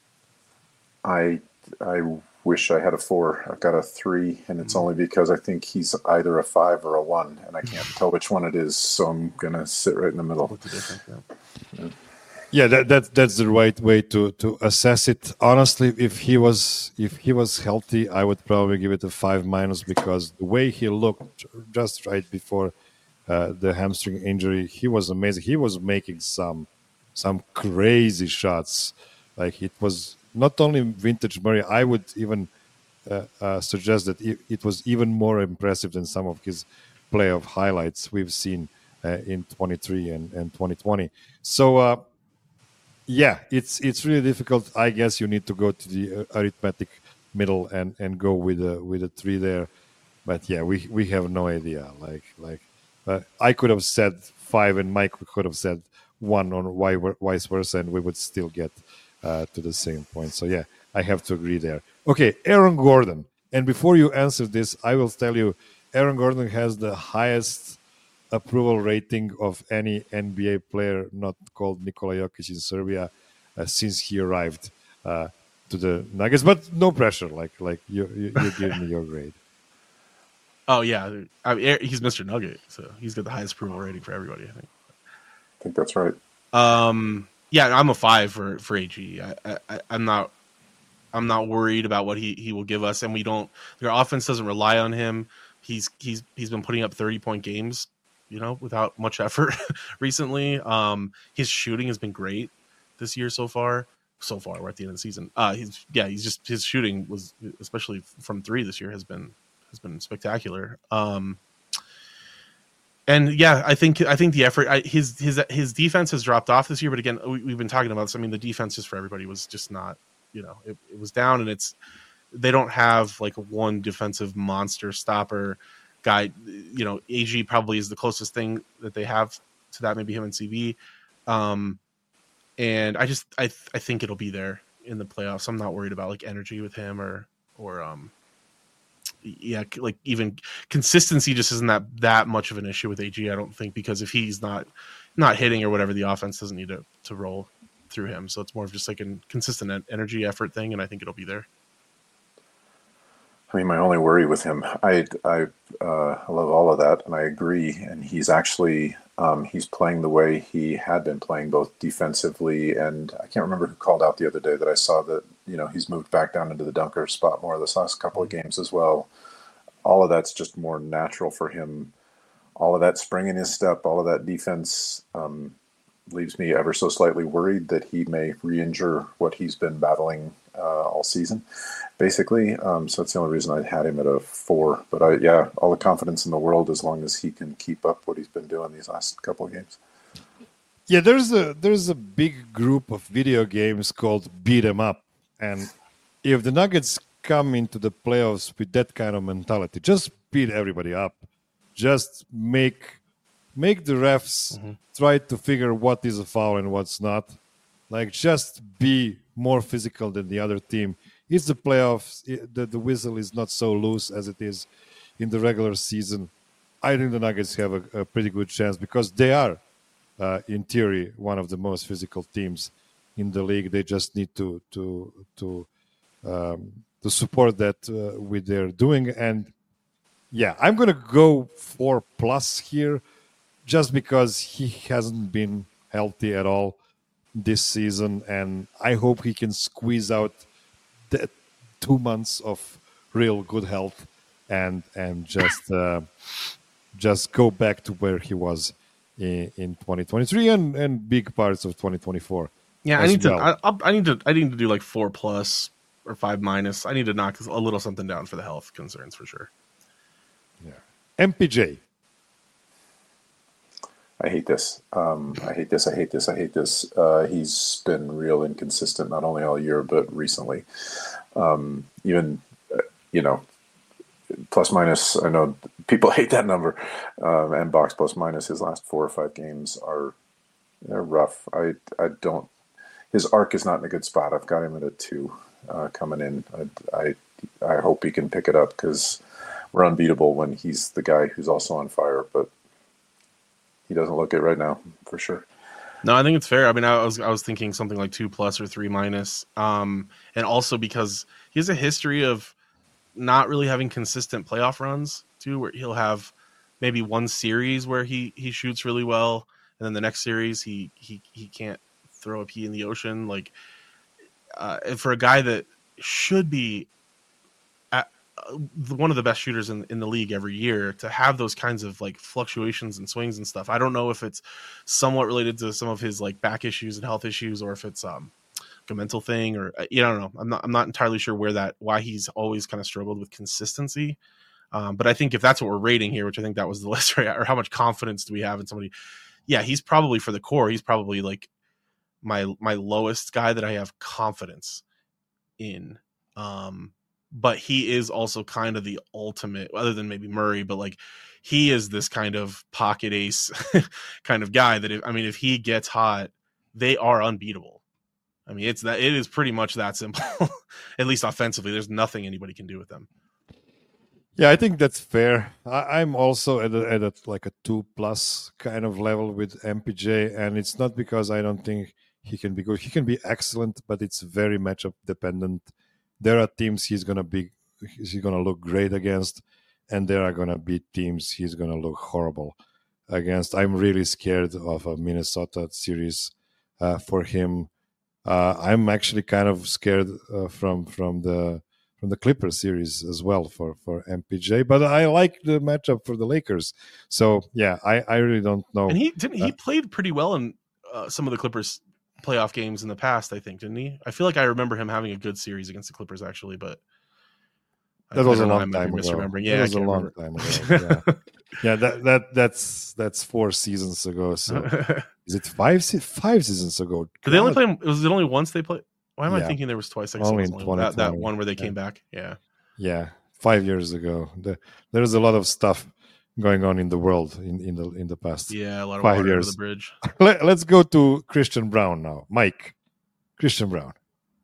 I, I wish I had a four. I've got a three, and it's mm-hmm. only because I think he's either a five or a one, and I can't tell which one it is. So I'm going to sit right in the middle. Yeah. Yeah. Yeah, that, that that's the right way to, to assess it. Honestly, if he was if he was healthy, I would probably give it a five minus, because the way he looked just right before uh, the hamstring injury, he was amazing. He was making some some crazy shots. Like, it was not only vintage Murray. I would even uh, uh, suggest that it, it was even more impressive than some of his playoff highlights we've seen uh, in twenty-three and, and twenty twenty. So. Uh, Yeah, it's it's really difficult. I guess you need to go to the arithmetic middle and, and go with a with a three there. But yeah, we, we have no idea. Like like uh, I could have said five, and Mike could have said one, or vice versa, and we would still get uh, to the same point. So yeah, I have to agree there. Okay, Aaron Gordon. And before you answer this, I will tell you, Aaron Gordon has the highest approval rating of any N B A player not called Nikola Jokic in Serbia uh, since he arrived uh, to the Nuggets. But no pressure, like like you you, you give me your grade. Oh yeah, I mean, he's Mister Nugget, so he's got the highest approval rating for everybody. I think. I think that's right. Um, yeah, I'm a five for for A G. I, I, I'm not I'm not worried about what he, he will give us, and we don't. Their offense doesn't rely on him. He's he's he's been putting up thirty point games, you know, without much effort recently. Um, his shooting has been great this year so far. So far, we're at the end of the season. Uh, he's yeah, he's just his shooting was, especially from three this year, has been has been spectacular. Um, and yeah, I think I think the effort, I, his his his defense has dropped off this year. But again, we, we've been talking about this. I mean, the defense just for everybody was just not, you know, it, it was down, and it's they don't have like one defensive monster stopper guy. You know, A G probably is the closest thing that they have to that. Maybe him and C B. Um, and I just I th- I think it'll be there in the playoffs. I'm not worried about like energy with him or or um yeah like even consistency just isn't that that much of an issue with A G. I don't think, because if he's not not hitting or whatever, the offense doesn't need to to roll through him. So it's more of just like a consistent energy effort thing, and I think it'll be there. I mean, my only worry with him, I I uh, I love all of that, and I agree. And he's actually um, he's playing the way he had been playing, both defensively, and I can't remember who called out the other day that I saw that, you know, he's moved back down into the dunker spot more this last couple of games as well. All of that's just more natural for him. All of that spring in his step, all of that defense um, leaves me ever so slightly worried that he may re-injure what he's been battling uh, all season, basically. Um, so that's the only reason I had him at a four. But I, yeah, all the confidence in the world as long as he can keep up what he's been doing these last couple of games. Yeah, there's a there's a big group of video games called Beat 'em Up, and if the Nuggets come into the playoffs with that kind of mentality, just beat everybody up, just make make the refs mm-hmm. try to figure what is a foul and what's not. Like, just be more physical than the other team. It's the playoffs. It, the, the whistle is not so loose as it is in the regular season. I think the Nuggets have a, a pretty good chance, because they are, uh, in theory, one of the most physical teams in the league. They just need to to to um, to support that uh, with their doing. And yeah, I'm gonna go four plus here, just because he hasn't been healthy at all this season, and I hope he can squeeze out the two months of real good health and and just uh, just go back to where he was in, in twenty twenty-three and, and big parts of twenty twenty-four. Yeah, I need well. to. I, I need to. I need to do like four plus, or five minus. I need to knock a little something down for the health concerns for sure. Yeah. M P J. I hate this. Um, I hate this. I hate this. I hate this. Uh, he's been real inconsistent, not only all year, but recently. Um, even, uh, you know, plus minus, I know people hate that number. Um, and box plus minus, his last four or five games are they're rough. I, I don't, his arc is not in a good spot. I've got him at a two uh, coming in. I, I, I hope he can pick it up because we're unbeatable when he's the guy who's also on fire, but he doesn't look it right now for sure. No, I think it's fair. I mean, I was I was thinking something like two plus or three minus, um, and also because he has a history of not really having consistent playoff runs too, where he'll have maybe one series where he he shoots really well, and then the next series he he he can't throw a pea in the ocean. Like uh, for a guy that should be at, uh, one of the best shooters in in the league every year, to have those kinds of like fluctuations and swings and stuff. I don't know if it's somewhat related to some of his like back issues and health issues, or if it's um a mental thing, or you know, I don't know. I'm not I'm not entirely sure where that why he's always kind of struggled with consistency. Um, but I think if that's what we're rating here, which I think that was the list, right? Or how much confidence do we have in somebody? Yeah, he's probably for the core. He's probably like my my lowest guy that I have confidence in. Um, but he is also kind of the ultimate, other than maybe Murray, but like he is this kind of pocket ace kind of guy that if, I mean, if he gets hot, they are unbeatable. I mean, it's that it is pretty much that simple, at least offensively. There's nothing anybody can do with them. Yeah, I think that's fair. I, I'm also at a, at a, like a two plus kind of level with M P J, and it's not because I don't think he can be good. He can be excellent, but it's very matchup dependent. There are teams he's gonna be he's gonna look great against, and there are gonna be teams he's gonna look horrible against. I'm really scared of a Minnesota series uh, for him. Uh, I'm actually kind of scared uh, from from the from the Clippers series as well for, for M P J, but I like the matchup for the Lakers. So yeah, I, I really don't know. And he didn't he uh, played pretty well in uh, some of the Clippers playoff games in the past, I think, didn't he? I feel like I remember him having a good series against the Clippers actually, but that I, was I a know, long time ago. Misremembering. Yeah, that was I a can't long remember. time ago. Yeah, yeah that, that that's that's four seasons ago. So is it five five seasons ago? Did they only play? Was it only once they played? Why am Yeah. I thinking there was twice? I guess Only it in was only that, that twenty twenty. one where they Yeah. came back. Yeah. Yeah, five years ago. The, there's a lot of stuff going on in the world in, in the in the past. Yeah, a lot of Five water years. under the bridge. Let, let's go to Christian Brown now. Mike, Christian Brown.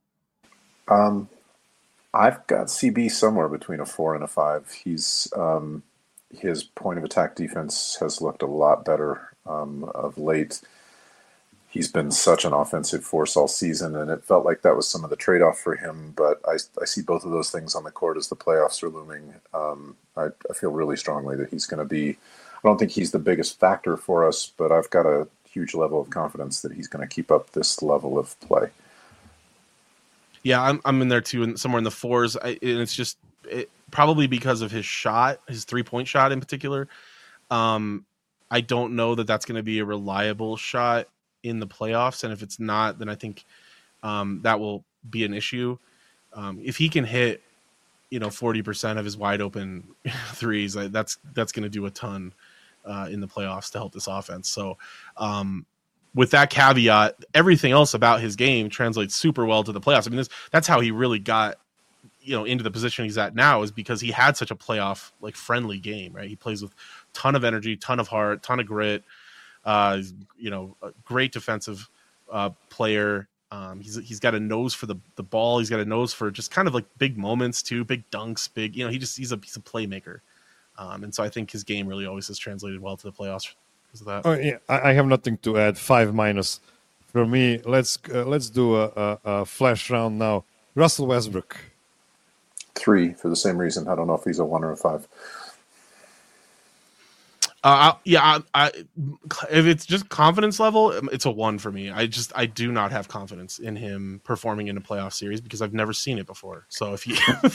Um, I've got C B somewhere between a four and a five. He's um, his point of attack defense has looked a lot better um, of late. He's been such an offensive force all season, and it felt like that was some of the trade-off for him. But I, I see both of those things on the court as the playoffs are looming. Um, I, I feel really strongly that he's going to be. I don't think he's the biggest factor for us, but I've got a huge level of confidence that he's going to keep up this level of play. Yeah, I'm I'm in there too, and somewhere in the fours. I, and it's just it, probably because of his shot, his three point shot in particular. Um, I don't know that that's going to be a reliable shot in the playoffs, and if it's not, then I think um, that will be an issue. Um, if he can hit, you know, forty percent of his wide open threes, I, that's that's going to do a ton uh, in the playoffs to help this offense. So, um, with that caveat, everything else about his game translates super well to the playoffs. I mean, this, that's how he really got, you know, into the position he's at now, is because he had such a playoff like friendly game, right? He plays with ton of energy, ton of heart, ton of grit. Uh, you know, a great defensive uh, player. Um, he's he's got a nose for the, the ball. He's got a nose for just kind of like big moments too, big dunks, big. You know, he just he's a he's a playmaker, um, and so I think his game really always has translated well to the playoffs because of that. Oh yeah, I, I have nothing to add. Five minus for me. Let's uh, let's do a, a, a flash round now. Russell Westbrook. Three for the same reason. I don't know if he's a one or a five. Uh, I, yeah, I, I, if it's just confidence level, it's a one for me. I just I do not have confidence in him performing in a playoff series because I've never seen it before. So if you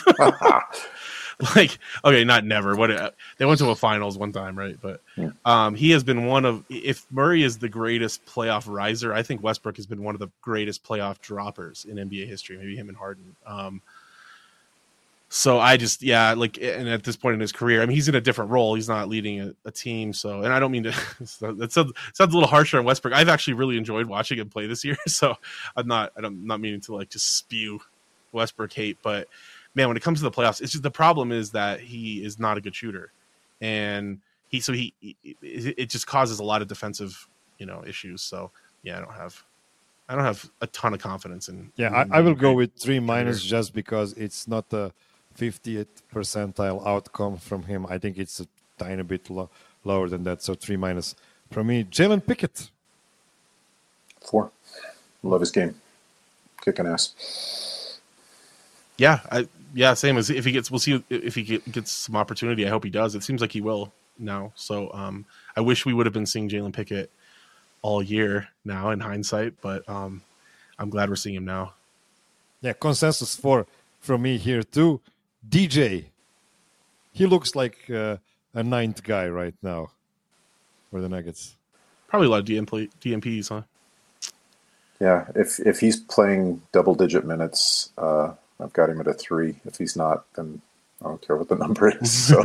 like, okay, not never. What they went to a finals one time, right? But um, he has been one of. If Murray is the greatest playoff riser, I think Westbrook has been one of the greatest playoff droppers in N B A history. Maybe him and Harden. Um, So I just, yeah, like, and at this point in his career, I mean, he's in a different role. He's not leading a, a team. So, and I don't mean to, that sounds, sounds a little harsher on Westbrook. I've actually really enjoyed watching him play this year. So I'm not, I'm not meaning to like just spew Westbrook hate, but man, when it comes to the playoffs, it's just the problem is that he is not a good shooter. And he, so he, it just causes a lot of defensive, you know, issues. So yeah, I don't have, I don't have a ton of confidence in. Yeah, in I, I will go with three minus just because it's not a fiftieth percentile outcome from him. I think it's a tiny bit lo- lower than that. So three minus from me. Jalen Pickett. Four. Love his game. Kicking ass. Yeah, I, yeah, same as if he gets. We'll see if he get, gets some opportunity. I hope he does. It seems like he will now. So um, I wish we would have been seeing Jalen Pickett all year now in hindsight, but um, I'm glad we're seeing him now. Yeah, consensus four from me here too. D J, he looks like uh, a ninth guy right now for the Nuggets. Probably a lot of D M P, D M Ps, huh? Yeah, if if he's playing double digit minutes, uh, I've got him at a three. If he's not, then I don't care what the number is. So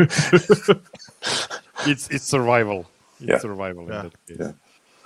it's it's survival. It's yeah. survival yeah. in that case. Yeah.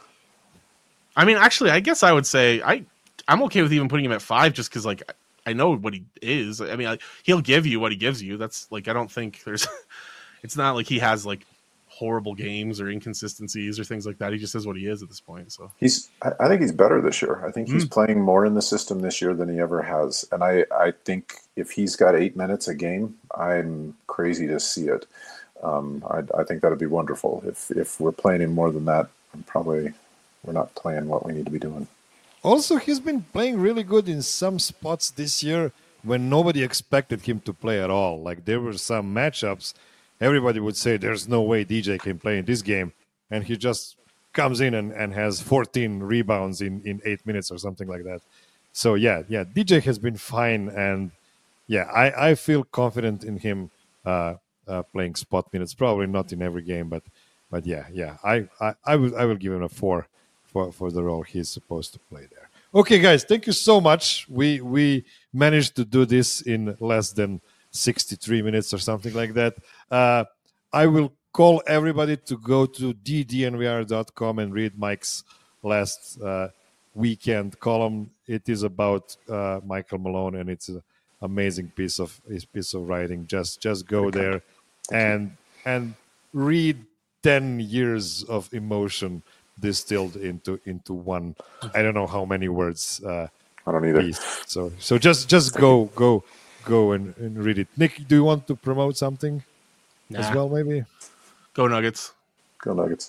I mean, actually, I guess I would say I I'm okay with even putting him at five, just because like. I know what he is. I mean, I, he'll give you what he gives you. That's like, I don't think there's, it's not like he has like horrible games or inconsistencies or things like that. He just is what he is at this point. So he's, I think he's better this year. I think he's mm. playing more in the system this year than he ever has. And I, I think if he's got eight minutes a game, I'm crazy to see it. Um, I, I think that'd be wonderful. If, if we're playing him more than that, I'm probably, we're not playing what we need to be doing. Also, he's been playing really good in some spots this year when nobody expected him to play at all. Like, there were some matchups, everybody would say, there's no way D J can play in this game. And he just comes in and, and has fourteen rebounds in, in eight minutes or something like that. So, yeah, yeah, D J has been fine. And, yeah, I, I feel confident in him uh, uh, playing spot minutes. Probably not in every game, but, but yeah, yeah, I, I, I, will, I will give him a four. For, for the role he's supposed to play there. Okay, guys, thank you so much. We we managed to do this in less than sixty-three minutes or something like that. Uh, I will call everybody to go to d d n v r dot com and read Mike's last uh, weekend column. It is about uh, Michael Malone, and it's an amazing piece of his piece of writing. Just just go there and and read ten years of emotion distilled into into one. I don't know how many words. Uh, I don't either. Piece. So so just just go go go and, and read it. Nick, do you want to promote something nah. as well? Maybe. Go Nuggets. Go Nuggets.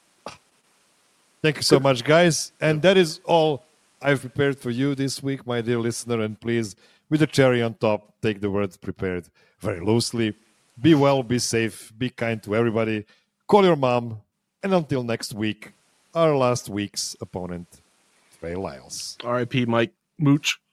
Thank you so much, guys. And that is all I've prepared for you this week, my dear listener. And please, with a cherry on top, take the word prepared very loosely. Be well, be safe, be kind to everybody. Call your mom. And until next week, our last week's opponent, Trey Lyles. R I P Mike Mooch.